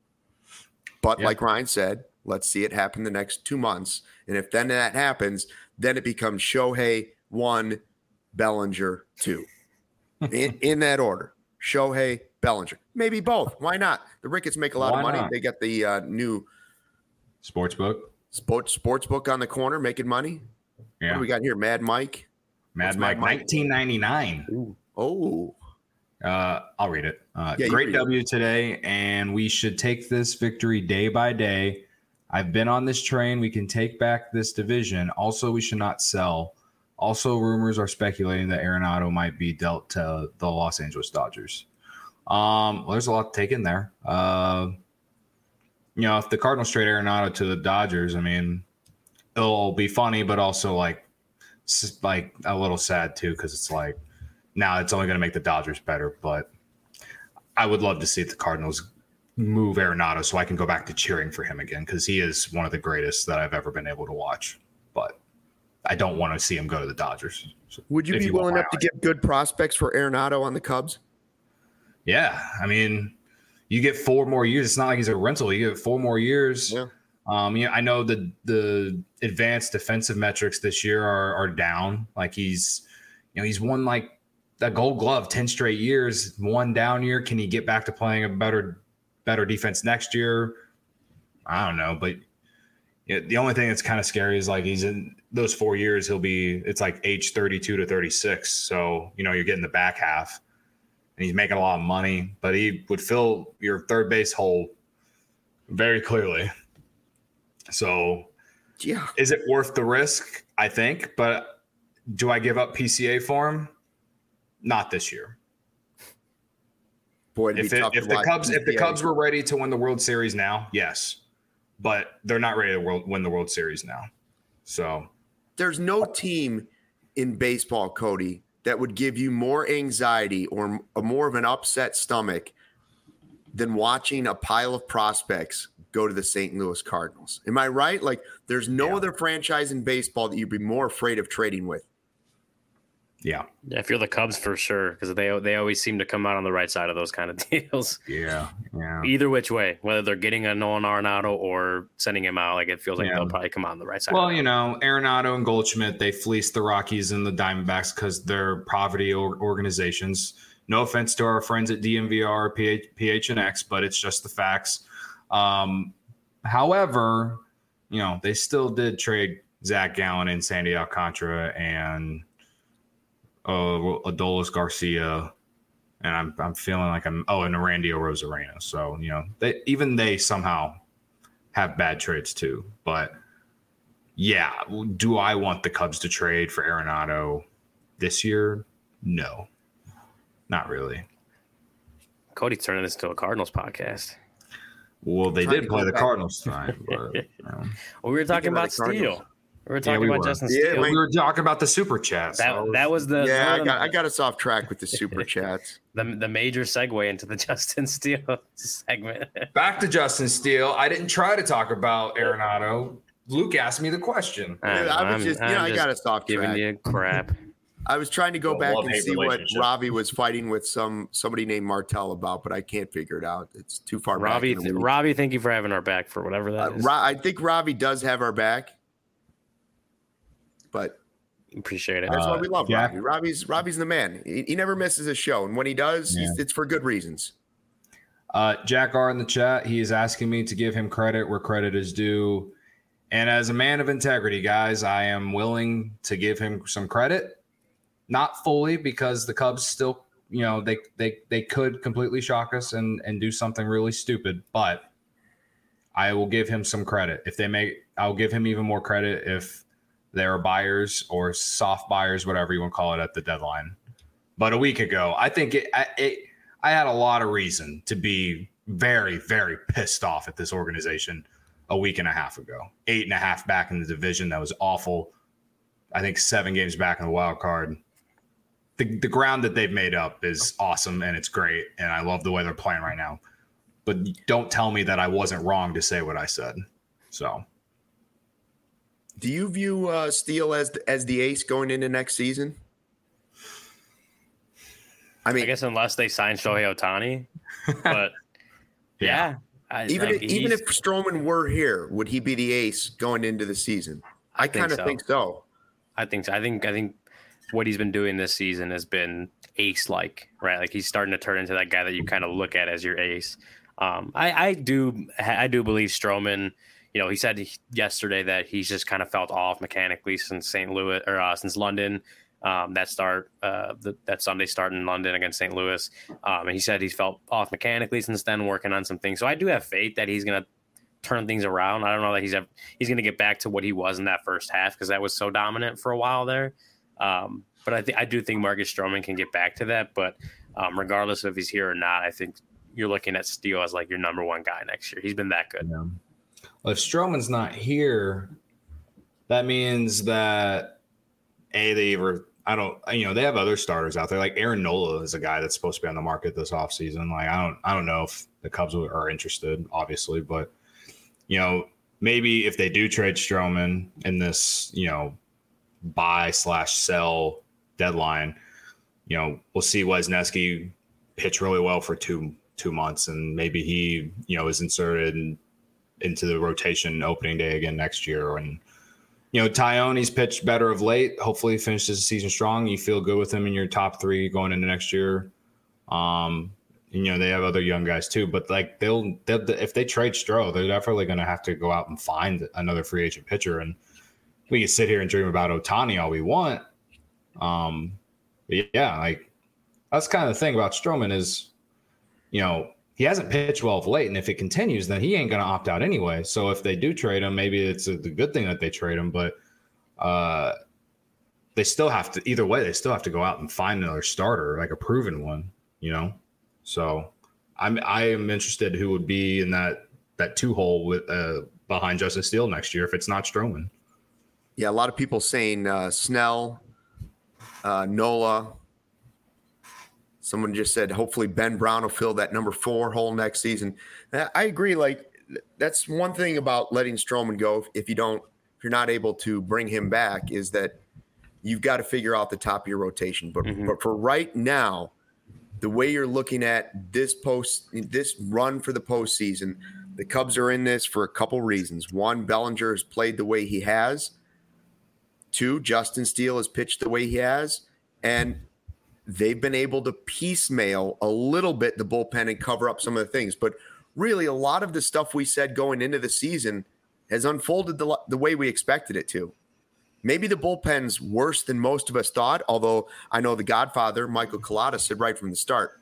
But
Yeah.
like Ryan said, let's see it happen the next two months. And if then that happens, then it becomes Shohei one, Bellinger two, in, in that order. Shohei, Bellinger, maybe both. Why not? The Ricketts make a lot
Why
of money.
not?
They got the uh, new
Sportsbook.
sports sports book on the corner making money. What
Yeah,
do we got here? Mad Mike.
Mad
What's
Mike,
Mad Mike?
nineteen ninety-nine.
Oh,
Uh, I'll read it. Uh,
Yeah, you
great
read it.
W today, and we should take this victory day by day. I've been on this train. We can take back this division. Also, we should not sell. Also, rumors are speculating that Arenado might be dealt to the Los Angeles Dodgers. Um, well, there's a lot to take in there. Uh, you know, if the Cardinals trade Arenado to the Dodgers, I mean, it'll be funny, but also like, s- like a little sad too, because it's like, now it's only going to make the Dodgers better. But I would love to see the Cardinals move Arenado so I can go back to cheering for him again, because he is one of the greatest that I've ever been able to watch. But I don't want to see him go to the Dodgers. So
would you
if
be
you want
willing
my
enough to
eye.
give good prospects for Arenado on the Cubs?
Yeah, I mean, you get four more years. It's not like he's a rental. You get four more years.
Yeah.
Um, yeah, I know the the advanced defensive metrics this year are are down. Like he's, you know, he's won like that Gold Glove ten straight years. One down year. Can he get back to playing a better better defense next year? I don't know, but yeah, the only thing that's kind of scary is like he's in those four years. He'll be it's like age thirty-two to thirty-six. So you know you're getting the back half. And he's making a lot of money, but he would fill your third base hole very clearly. So,
Yeah.
is it worth the risk? I think, but do I give up P C A for him? Not this year.
Boy, it'd
If
be
it,
tough
if
to
the
watch
Cubs if the
P C A.
Cubs were ready to win the World Series now, yes, but they're not ready to world, win the World Series now. So
There's no team in baseball, Cody, that would give you more anxiety or a more of an upset stomach than watching a pile of prospects go to the Saint Louis Cardinals? Am I right? Like, there's no
Yeah.
other franchise in baseball that you'd be more afraid of trading with.
Yeah.
Yeah, if you're the Cubs, for sure, because they they always seem to come out on the right side of those kind of deals.
Yeah. Yeah.
Either which way, whether they're getting a Nolan Arenado or sending him out, like it feels like
Yeah.
they'll probably come out on the right side.
Well, you know, Arenado and Goldschmidt, they fleeced the Rockies and the Diamondbacks because they're poverty or- organizations. No offense to our friends at D M V R, P H, P H N X, but it's just the facts. Um, however, you know, they still did trade Zach Gallen and Sandy Alcantara and uh, Adolis Garcia, and I'm I'm feeling like I'm oh, and Randy Arozarena. So you know, they even they somehow have bad trades too. But yeah, do I want the Cubs to trade for Arenado this year? No, not really.
Cody's turning this into a Cardinals podcast.
Well, they
Trying
did
to
play
go
the
back.
Cardinals tonight. But, you know.
Well, we were talking
Speaking of
about
the Cardinals.
Steele. We were talking
we
about
were.
Justin
Yeah,
Steele.
wait.
we were talking about the super chat.
that
so-
that was the
Yeah, I
one of
got
the,
I got us off track with the super chats.
the the major segue into the Justin Steele segment.
Back to Justin Steele. I didn't try to talk about Arenado. Luke asked me the question.
I,
Yeah, I was
I'm-
just, you
I'm
know, I
just
got us off
giving
track.
you crap.
I was trying to go
Well,
back and
love-hate
see what
relationship.
Ravi was fighting with some somebody named Martell about, but I can't figure it out. It's too far
Robbie,
back. in the week.
Robbie, thank you for having our back for whatever that
Uh,
is.
Ra- I think Ravi does have our back, but
Appreciate it.
that's why
Uh,
we love
Jack-
Ravi. Ravi's Ravi's the man. He, he never misses a show, and when he does,
Yeah.
he's, it's for good reasons.
Uh, Jack R in the chat, he is asking me to give him credit where credit is due. And as a man of integrity, guys, I am willing to give him some credit. Not fully, because the Cubs still, you know, they they they could completely shock us and and do something really stupid, but I will give him some credit. If they make, I'll give him even more credit if there are buyers or soft buyers, whatever you want to call it, at the deadline. But a week ago, I think it, I, it I had a lot of reason to be very, very pissed off at this organization a week and a half ago. Eight and a half back in the division. That was awful. I think seven games back in the wild card. The, the ground that they've made up is awesome, and it's great, and I love the way they're playing right now. But don't tell me that I wasn't wrong to say what I said. So,
Do you view uh, Steele as the, as the ace going into next season? I mean,
I guess unless they sign Shohei Ohtani, but yeah, I,
even
I,
if, even
he's-
if Stroman were here, would he be the ace going into the season? I,
think
kind of
so.
think so.
I think so. I think I think what he's been doing this season has been ace like, right? Like he's starting to turn into that guy that you kind of look at as your ace. Um, I, I do I do believe Stroman. You know, he said yesterday that he's just kind of felt off mechanically since Saint Louis or uh, since London. Um, that start, uh, the, that Sunday start in London against Saint Louis. Um, and he said he's felt off mechanically since then, working on some things. So I do have faith that he's going to turn things around. I don't know that he's have, he's going to get back to what he was in that first half because that was so dominant for a while there. Um, but I think I do think Marcus Stroman can get back to that. But um, regardless of if he's here or not, I think you're looking at Steele as like your number one guy next year. He's been that good.
yeah. Well, if Stroman's not here, that means that a they ever I don't you know they have other starters out there like Aaron Nola is a guy that's supposed to be on the market this offseason. Like I don't I don't know if the Cubs are interested, obviously, but you know maybe if they do trade Stroman in this you know buy slash sell deadline, you know we'll see Wisniewski pitch really well for two two months and maybe he you know is inserted in, into the rotation opening day again next year. And, you know, Tyone's pitched better of late. Hopefully he finishes the season strong. You feel good with him in your top three going into next year. Um, and, you know, they have other young guys too, but like they'll, they'll if they trade Stroh, they're definitely going to have to go out and find another free agent pitcher. And we can sit here and dream about Ohtani all we want. Um, but yeah, like that's kind of the thing about Stroman is, you know, he hasn't pitched well of late, and if it continues, then he ain't going to opt out anyway. So if they do trade him, maybe it's a, the good thing that they trade him, but uh, they still have to, either way, they still have to go out and find another starter, like a proven one, you know? So I'm, I am interested who would be in that, that two hole with uh, behind Justin Steele next year if it's not Stroman.
Yeah, a lot of people saying uh, Snell, uh, Nola. Someone just said, hopefully Ben Brown will fill that number four hole next season. I agree. Like, that's one thing about letting Stroman go. If you don't, if you're not able to bring him back, is that you've got to figure out the top of your rotation. But, mm-hmm. but for right now, the way you're looking at this post, this run for the postseason, the Cubs are in this for a couple reasons. One, Bellinger has played the way he has. Two, Justin Steele has pitched the way he has. And they've been able to piecemeal a little bit the bullpen and cover up some of the things. But really, a lot of the stuff we said going into the season has unfolded the, the way we expected it to. Maybe the bullpen's worse than most of us thought, although I know the Godfather, Michael Collada, said right from the start,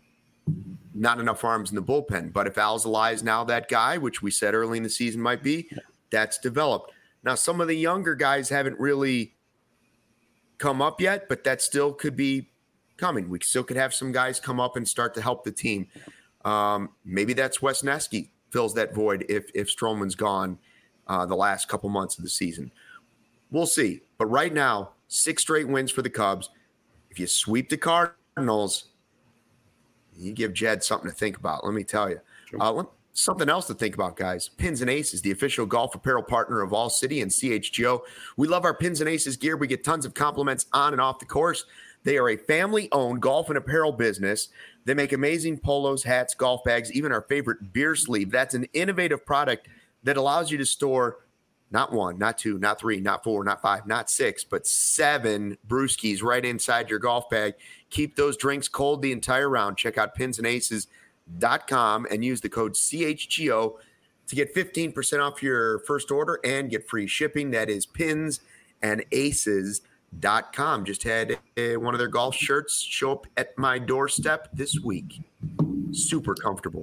not enough arms in the bullpen. But if Alzolay is now that guy, which we said early in the season might be, that's developed. Now, some of the younger guys haven't really come up yet, but that still could be coming. We still could have some guys come up and start to help the team. Um, maybe that's Wesneski fills that void if if Stroman's gone uh, the last couple months of the season. We'll see. But right now, six straight wins for the Cubs. If you sweep the Cardinals, you give Jed something to think about, let me tell you.
Sure.
Uh, let, something else to think about, guys. Pins and Aces, the official golf apparel partner of All City and C H G O. We love our Pins and Aces gear. We get tons of compliments on and off the course. They are a family-owned golf and apparel business. They make amazing polos, hats, golf bags, even our favorite beer sleeve. That's an innovative product that allows you to store not one, not two, not three, not four, not five, not six, but seven brewskis right inside your golf bag. Keep those drinks cold the entire round. Check out pins and aces dot com and use the code C H G O to get fifteen percent off your first order and get free shipping. That is pins and aces dot com. Just had uh, one of their golf shirts show up at my doorstep this week. Super comfortable.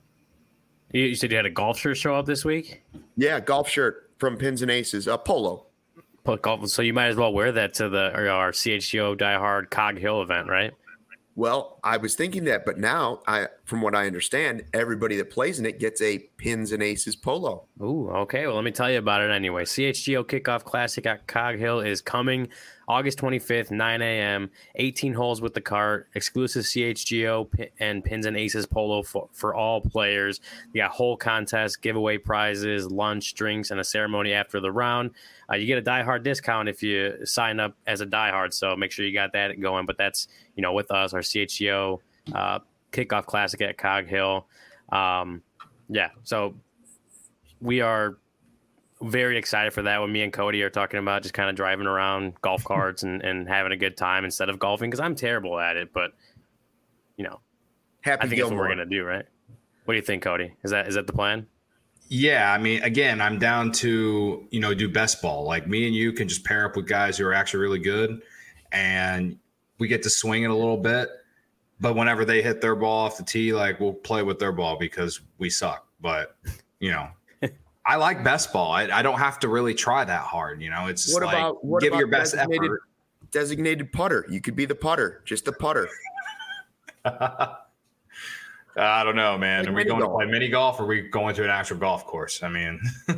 You said you had a golf shirt show up this week?
Yeah, golf shirt from Pins and Aces, a polo.
Golf, so you might as well wear that to the or our C H G O Die Hard Cog Hill event, right?
Well, I was thinking that, but now, I, from what I understand, everybody that plays in it gets a Pins and Aces polo.
Ooh, okay. Well, let me tell you about it anyway. C H G O Kickoff Classic at Cog Hill is coming August twenty-fifth, nine a.m., eighteen holes with the cart, exclusive C H G O and Pins and Aces polo for, for all players. You got whole contest, giveaway prizes, lunch, drinks, and a ceremony after the round. Uh, you get a Die Hard discount if you sign up as a Die Hard, so make sure you got that going. But that's, you know, with us, our C H G O uh, Kickoff Classic at Cog Hill. Um, yeah, so we are very excited for that. When me and Cody are talking about just kind of driving around golf carts and, and having a good time instead of golfing, because I'm terrible at it, but you know,
Happy
I think
Gilmore.
that's what we're gonna do, right? What do you think, Cody? Is that is that the plan?
Yeah, I mean, again, I'm down to, you know, do best ball. Like me and you can just pair up with guys who are actually really good, and we get to swing it a little bit. But whenever they hit their ball off the tee, like we'll play with their ball because we suck. But you know. I like best ball. I, I don't have to really try that hard. You know, it's just
what
like
about, what
give
about
your best effort.
Designated putter. You could be the putter, just the putter.
I don't know, man.
Like
are we going
golf.
to play mini golf or are we going to an actual golf course? I mean,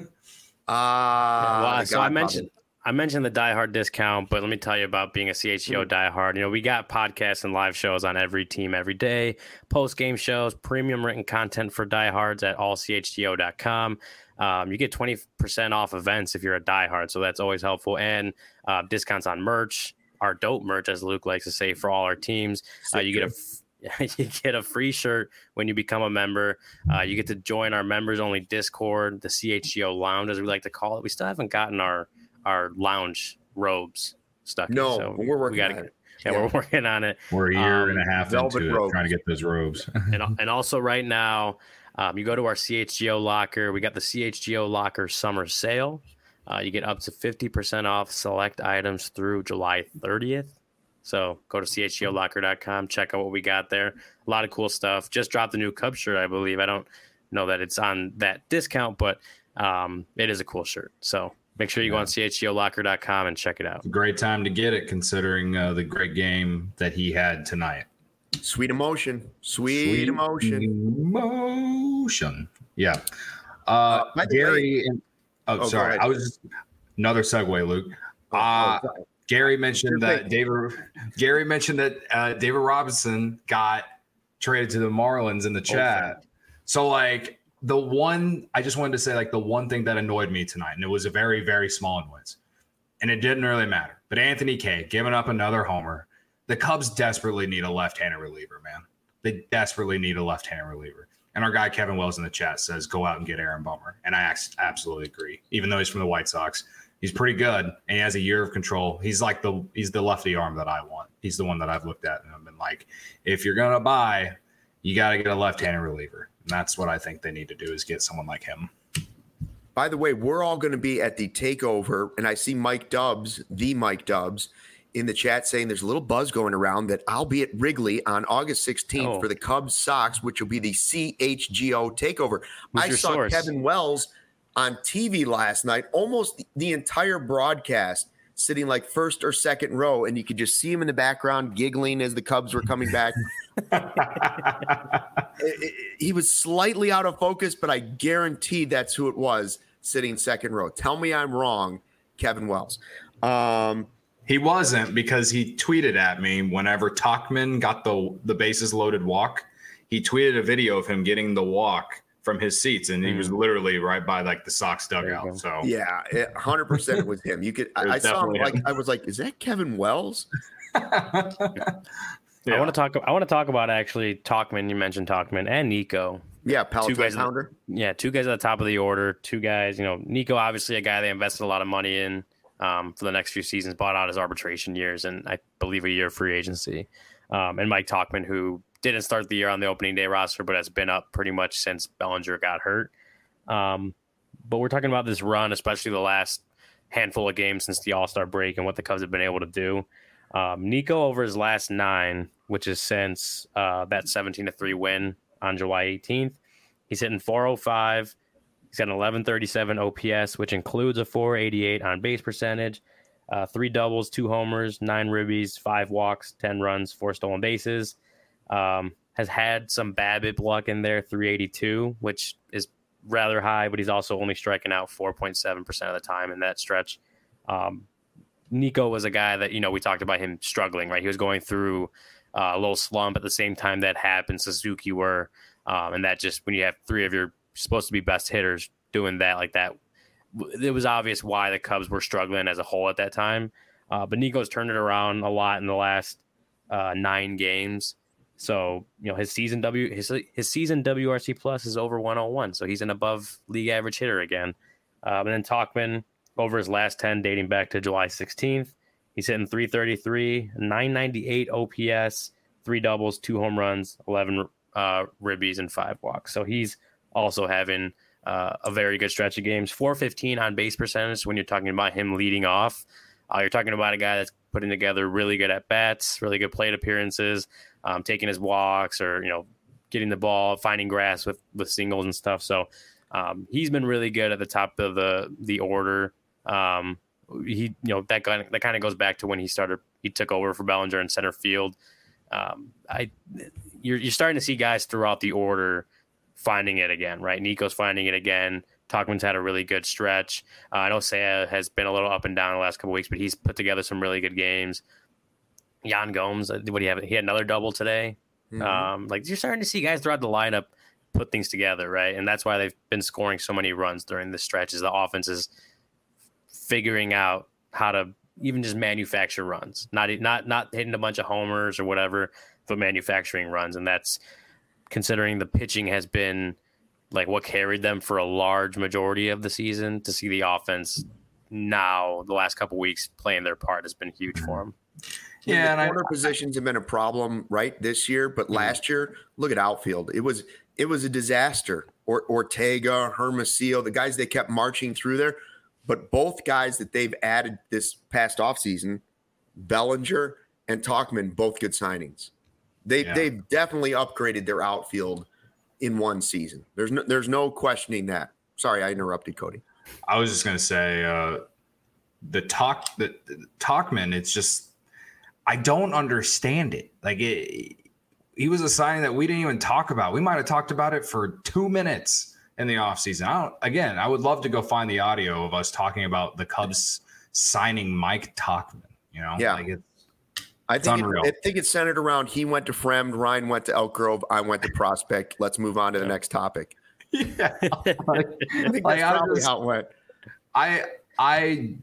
uh,
well, so I mentioned I mentioned the Die Hard discount, but let me tell you about being a C H G O Die Hard. You know, we got podcasts and live shows on every team every day, post-game shows, premium written content for Die Hards at all c h g o dot com. Um, you get twenty percent off events if you're a diehard, so that's always helpful. And uh, discounts on merch, our dope merch, as Luke likes to say, for all our teams. Uh, you get a you get a free shirt when you become a member. Uh, you get to join our members-only Discord, the C H G O Lounge, as we like to call it. We still haven't gotten our our lounge robes stuck.
No,
in, so
we're working
we gotta,
on it.
Yeah, yeah, we're working on it.
We're a year
um,
and a half into it, trying to get those robes.
and and also right now. Um, you go to our C H G O locker. We got the C H G O locker summer sale. Uh, you get up to fifty percent off select items through July thirtieth. So go to c h g o locker dot com. Check out what we got there. A lot of cool stuff. Just dropped the new Cub shirt, I believe. I don't know that it's on that discount, but um, it is a cool shirt. So make sure you yeah. go on c h g o locker dot com and check it out.
It's a great time to get it, considering uh, the great game that he had tonight.
Sweet emotion. Sweet, Sweet emotion.
Emotion. Yeah. Uh, uh Gary. And, oh, oh, sorry. I was just, another segue, Luke.
Oh,
uh,
oh,
Gary mentioned that David. Gary mentioned that uh, David Robinson got traded to the Marlins in the chat. Okay. So like the one, I just wanted to say like the one thing that annoyed me tonight, and it was a very very small annoyance, and it didn't really matter. But Anthony Kay giving up another homer. The Cubs desperately need a left-handed reliever, man. They desperately need a left-handed reliever. And our guy Kevin Wells in the chat says, go out and get Aaron Bummer. And I absolutely agree. Even though he's from the White Sox, he's pretty good, and he has a year of control. He's like the he's the lefty arm that I want. He's the one that I've looked at and I've been like, if you're going to buy, you got to get a left-handed reliever. And that's what I think they need to do is get someone like him.
By the way, we're all going to be at the takeover, and I see Mike Dubs, the Mike Dubs, in the chat saying there's a little buzz going around that I'll be at Wrigley on August sixteenth oh. for the Cubs Sox, which will be the C H G O takeover. Who's I saw source? Kevin Wells on T V last night, almost the entire broadcast, sitting like first or second row, and you could just see him in the background giggling as the Cubs were coming back. it, it, he was slightly out of focus, but I guarantee that's who it was sitting second row. Tell me I'm wrong, Kevin Wells. Um,
He wasn't, because he tweeted at me whenever Tauchman got the the bases loaded walk. He tweeted a video of him getting the walk from his seats, and he mm. was literally right by like the Sox dugout. So
yeah, one hundred percent it was him. You could I, I saw him like him. I was like, is that Kevin Wells?
yeah. I want to talk. I want to talk about actually Tauchman. You mentioned Tauchman and Nico.
Yeah, Peloton pounder.
Yeah, two guys at the top of the order. Two guys. You know, Nico obviously a guy they invested a lot of money in. Um, for the next few seasons, bought out his arbitration years and I believe a year of free agency. Um, and Mike Tauchman, who didn't start the year on the opening day roster, but has been up pretty much since Bellinger got hurt. Um, but we're talking about this run, especially the last handful of games since the All-Star break and what the Cubs have been able to do. Um, Nico over his last nine, which is since uh, that seventeen to three win on July eighteenth, he's hitting four oh five. He's got an eleven thirty-seven O P S, which includes a four eighty-eight on base percentage, uh, three doubles, two homers, nine ribbies, five walks, ten runs, four stolen bases. Um, has had some BABIP luck in there, three eighty-two, which is rather high, but he's also only striking out four point seven percent of the time in that stretch. Um, Nico was a guy that, you know, we talked about him struggling, right? He was going through uh, a little slump at the same time that Happ and Suzuki were. Um, and that just, when you have three of your supposed to be best hitters doing that like that, it was obvious why the Cubs were struggling as a whole at that time. Uh, but Nico's turned it around a lot in the last uh, nine games. So, you know, his season W his his season W R C plus is over one oh one. So he's an above league average hitter again. Um, and then Tauchman over his last ten, dating back to July sixteenth, he's hitting three thirty-three, nine ninety-eight O P S, three doubles, two home runs, eleven uh, ribbies, and five walks. So he's also having uh, a very good stretch of games. four fifteen on base percentage when you're talking about him leading off. Uh, you're talking about a guy that's putting together really good at bats, really good plate appearances, um, taking his walks, or, you know, getting the ball, finding grass with, with singles and stuff. So um, he's been really good at the top of the the order. Um, he, you know, that kind of, that kind of goes back to when he started. He took over for Bellinger in center field. Um, I you're you're starting to see guys throughout the order finding it again, right? Nico's finding it again. Tauchman's had a really good stretch. Uh, I know Seiya has been a little up and down the last couple of weeks, but he's put together some really good games. Yan Gomes, what do you have? He had another double today. Mm-hmm. Um, like you're starting to see guys throughout the lineup put things together, right? And that's why they've been scoring so many runs during this stretch. Is the offense is figuring out how to even just manufacture runs, not not not hitting a bunch of homers or whatever, but manufacturing runs, and that's. Considering the pitching has been like what carried them for a large majority of the season, to see the offense now the last couple of weeks playing their part has been huge for them.
Yeah, the and corner I, positions have been a problem right this year, but mm-hmm. last year, look at outfield. It was it was a disaster. Or, Ortega, Hermosillo, the guys they kept marching through there, but both guys that they've added this past offseason, Bellinger and Tauchman, both good signings. They yeah. they've definitely upgraded their outfield in one season. There's no there's no questioning that. Sorry, I interrupted, Cody.
I was just gonna say uh, the talk the, the Tauchman. It's just I don't understand it. Like it, he was a signing that we didn't even talk about. We might have talked about it for two minutes in the offseason. I don't. Again, I would love to go find the audio of us talking about the Cubs signing Mike Tauchman. You know,
yeah.
like it's,
I
it's
think
unreal.
it, I think it's centered around he went to Fremd, Ryan went to Elk Grove, I went to Prospect. Let's move on to the next topic.
Yeah, like,
I think
like,
that's
I
probably
just-
how it went.
I I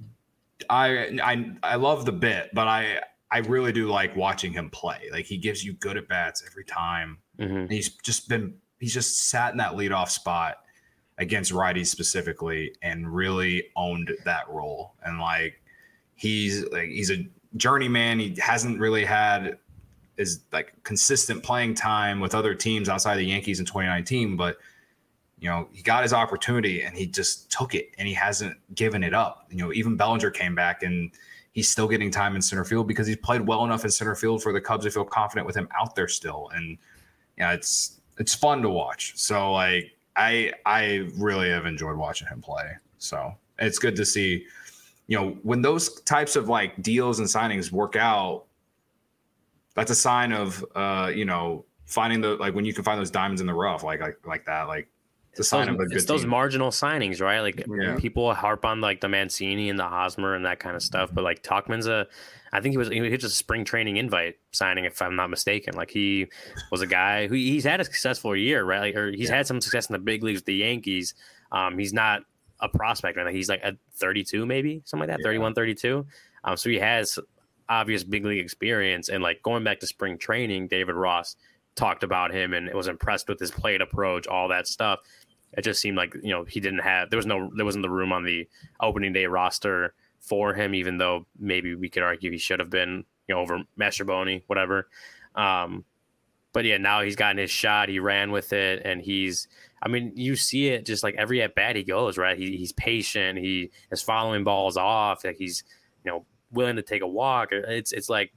I I I love the bit, but I I really do like watching him play. Like he gives you good at bats every time.
Mm-hmm.
And he's just been he's just sat in that leadoff spot against righties specifically and really owned that role. And like he's like he's a journeyman. He hasn't really had is like consistent playing time with other teams outside the Yankees in twenty nineteen, but you know, he got his opportunity and he just took it and he hasn't given it up. You know, even Bellinger came back and he's still getting time in center field because he's played well enough in center field for the Cubs to feel confident with him out there still. And yeah, it's it's fun to watch. So like I I really have enjoyed watching him play. So it's good to see, you know, when those types of like deals and signings work out, that's a sign of uh, you know, finding the like when you can find those diamonds in the rough, like like like that, like it's a sign
those,
of a good
it's those
team.
marginal signings, right? Like
Yeah.
people harp on like the Mancini and the Hosmer and that kind of stuff, but like Tauchman's a, I think he was he was just a spring training invite signing, if I'm not mistaken. Like he was a guy who he's had a successful year, right? Like, or he's
Yeah.
had some success in the big leagues with the Yankees. Um, he's not a prospect right now. He's like at thirty-two, maybe something like that,
Yeah.
thirty-one, thirty-two. Um, so he has obvious big league experience. And like going back to spring training, David Ross talked about him and was impressed with his plate approach, all that stuff. It just seemed like, you know, he didn't have, there was no, there wasn't the room on the opening day roster for him, even though maybe we could argue he should have been, you know, over Mastrobuoni, whatever. Um, but yeah, now he's gotten his shot. He ran with it and he's, I mean, you see it just like every at bat he goes, right? He, he's patient. He is following balls off. Like he's, you know, willing to take a walk. It's, it's like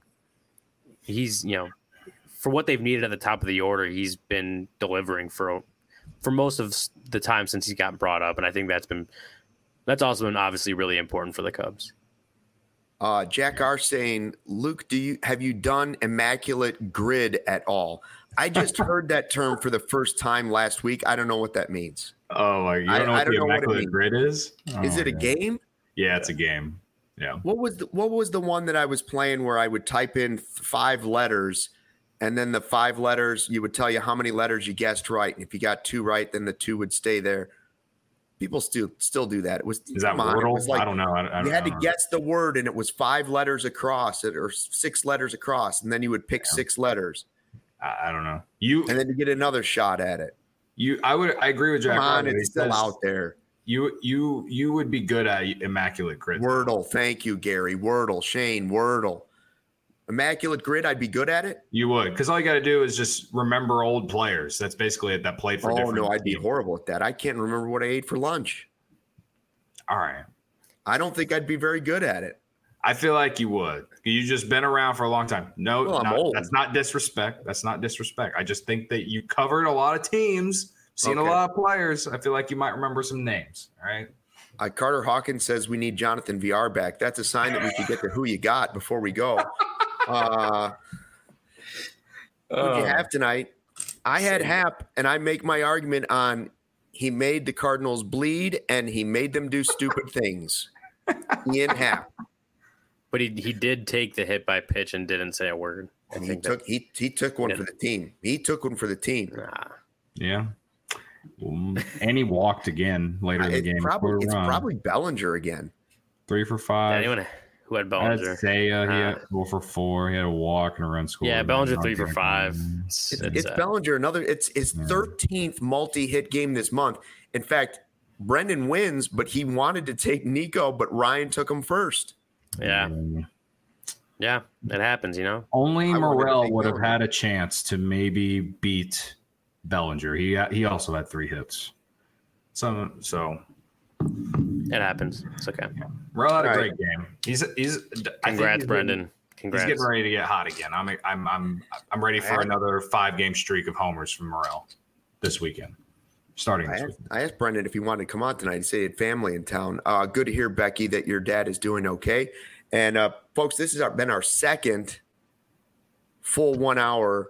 he's, you know, for what they've needed at the top of the order, he's been delivering for for most of the time since he got brought up, and I think that's been that's also been obviously really important for the Cubs.
Uh, Jack R saying, Luke, do you have you done immaculate grid at all? I just heard that term for the first time last week. I don't know what that means.
Oh, like, you don't
I-
know
I
what
don't
the
know what it
immaculate
means.
grid is?
Is
Oh,
it a
yeah.
game?
Yeah, it's a game. Yeah.
What was the, what was the one that I was playing where I would type in five letters, and then the five letters you would tell you how many letters you guessed right, and if you got two right, then the two would stay there. People still still do that. It was
Is that
come on, it
Wordle?
was like
I don't know. I, I don't,
you had
I
to
don't know.
guess the word, and it was five letters across, or six letters across, and then you would pick
Yeah.
six letters,
I, I don't know. You,
and then you get another shot at it.
you. I would. I agree with Jack.
Come on,
Ryan. He
it's still
says
out there.
You, you, you would be good at immaculate grid.
Wordle, thank you, Gary. Wordle, Shane, Wordle. Immaculate grid, I'd be good at it.
You would, because all you got to do is just remember old players. That's basically it. That played for
Oh
different
no, I'd be
teams.
horrible at that. I can't remember what I ate for lunch.
All right.
I don't think I'd be very good at it.
I feel like you would. You just been around for a long time. No,
Well, I'm
not-
old.
that's not disrespect. That's not disrespect. I just think that you covered a lot of teams, seen
Okay.
a lot of players. I feel like you might remember some names. All right.
Uh, Carter Hawkins says we need Jonathan V R back. That's a sign that we could get to who you got before we go. Uh, who'd you have tonight? I had Hap, and I make my argument on he made the Cardinals bleed and he made them do stupid things. Ian Happ.
But he he did take the hit by pitch and didn't say a word. I
He
think
took he he took one
Yeah.
for the team. He took one for the team.
that, nah.
Yeah. Um, and he walked again later in the
It's
game.
probably
Scored a
it's
run.
probably Bellinger again.
three for
Yeah,
five.
anyone who had
I had
Bellinger.
Seiya, he
Uh,
had four for four. He had a walk and a run score.
Yeah, Bellinger three for five. It's,
It's,
it's,
it's
uh,
Bellinger. Another. It's his
Yeah.
thirteenth multi-hit game this month. In fact, Brendan wins, but he wanted to take Nico, but Ryan took him first.
yeah, yeah, it happens, you know.
Only
I wanted to
Morel
take
would have
Bellinger.
had a chance to maybe beat Bellinger. He he also had three hits. So so
It happens. It's okay.
Morel had a
All
great game. He's he's I think
Congrats,
he's
Brendan.
Getting,
Congrats.
he's getting ready to get hot again. I'm I'm I'm I'm ready for
I-
another five game streak of homers from Morel this weekend. Starting
I
this
asked,
weekend.
I asked Brendan if he wanted to come on tonight. He said he had family in town. Uh, good to hear, Becky, that your dad is doing okay. And uh, folks, this has our, been our second full one hour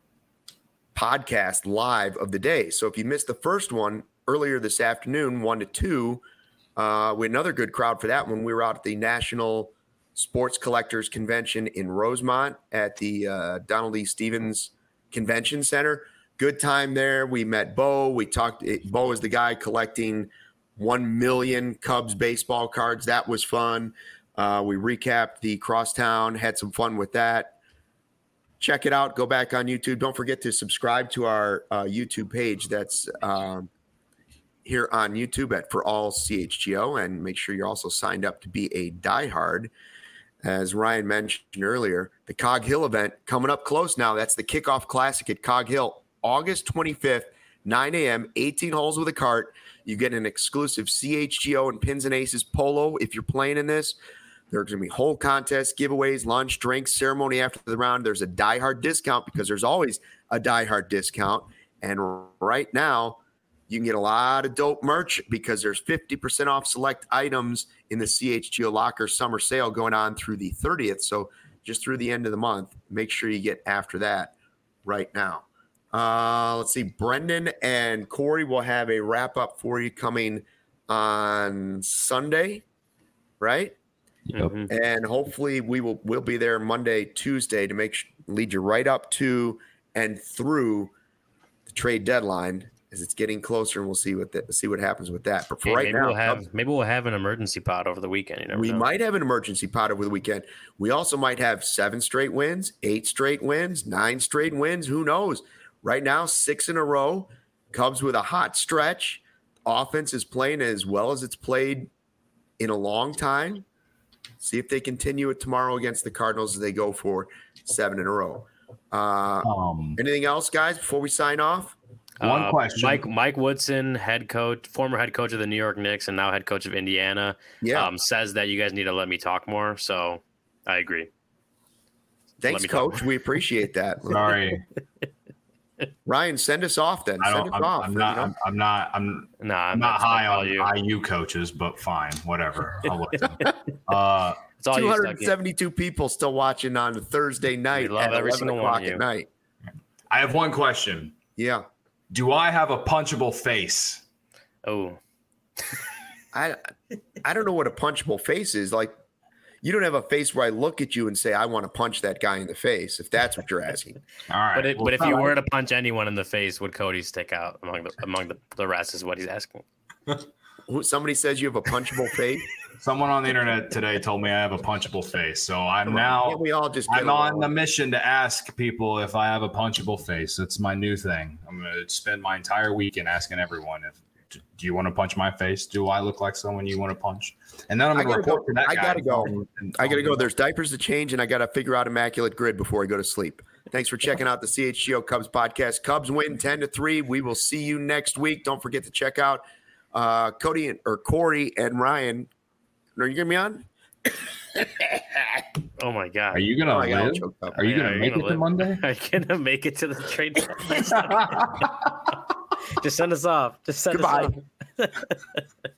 podcast live of the day. So if you missed the first one earlier this afternoon, one to two, uh, we had another good crowd for that one. We were out at the National Sports Collectors Convention in Rosemont at the uh, Donald E. Stevens Convention Center. Good time there. We met Bo. We talked. Bo is the guy collecting one million Cubs baseball cards. That was fun. Uh, we recapped the Crosstown, had some fun with that. Check it out. Go back on YouTube. Don't forget to subscribe to our uh, YouTube page. That's um, here on YouTube at For All C H G O. And make sure you're also signed up to be a diehard. As Ryan mentioned earlier, the Cog Hill event coming up close now. That's the Kickoff Classic at Cog Hill, August twenty-fifth, nine a.m., eighteen holes with a cart. You get an exclusive C H G O and Pins and Aces polo if you're playing in this. There's going to be whole contests, giveaways, lunch, drinks, ceremony after the round. There's a diehard discount because there's always a diehard discount. And right now, you can get a lot of dope merch because there's fifty percent off select items in the C H G O Locker summer sale going on through the thirtieth. So just through the end of the month, make sure you get after that right now. Uh, let's see. Brendan and Corey will have a wrap up for you coming on Sunday, right?
Yep.
And hopefully we will we'll be there Monday, Tuesday to make lead you right up to and through the trade deadline as it's getting closer, and we'll see what the, see what happens with that. But for
hey,
right
maybe
now,
we'll have maybe we'll have an emergency pod over the weekend. You never
we
know.
might have an emergency pod over the weekend. We also might have seven straight wins, eight straight wins, nine straight wins. Who knows? Right now, six in a row. Cubs with a hot stretch. Offense is playing as well as it's played in a long time. See if they continue it tomorrow against the Cardinals as they go for seven in a row. Uh,
Um,
anything else, guys, before we sign off?
One
Uh,
question.
Mike Mike Woodson, head coach, former head coach of the New York Knicks, and now head coach of Indiana,
Yeah.
um, says that you guys need to let me talk more. So I agree.
Thanks,
me talk
Coach. We appreciate that.
Sorry,
Ryan, send us off then.
I
Send
don't.
us
I'm,
off.
I'm
you
not.
know?
I'm, I'm not. I'm
Nah, I'm,
I'm not
that's
high
all
on
you.
I U coaches, but fine, whatever. I'll listen. uh,
It's all you,
two hundred
Stucky.
seventy-two people still watching on Thursday night
We love
at
every
eleven
single one
o'clock
of you.
at night.
I have one question.
Yeah.
Do I have a punchable face?
Oh,
I I don't know what a punchable face is. Like, you don't have a face where I look at you and say, I want to punch that guy in the face, if that's what you're asking.
all right.
but it,
well,
but if you
fine.
were to punch anyone in the face, would Cody stick out among the among the, the rest? Is what he's asking.
Who- Somebody says you have a punchable face.
Someone on the internet today told me I have a punchable face, so I'm now.
Can't we all just get
I'm on
along?
the mission to ask people if I have a punchable face. It's my new thing. I'm going to spend my entire weekend asking everyone if do you want to punch my face? Do I look like someone you want to punch? And then I'm
I
going to
gotta
report
go.
to that
I
guy.
gotta go.
and- and-
I got to go. There's diapers to change, and I got to figure out Immaculate Grid before I go to sleep. Thanks for checking out the C H G O Cubs podcast. Cubs win ten to three. We will see you next week. Don't forget to check out uh, Cody and, or Corey and Ryan. Are you going to be on?
Oh my god!
Are you going
Oh, I
to
got all
live?
choked up.
Are you
Yeah,
going
are
to
you
make
gonna
it to
live?
Monday?
Are you gonna make it to the trade deadline? Just send us off. Just send
Goodbye.
us off.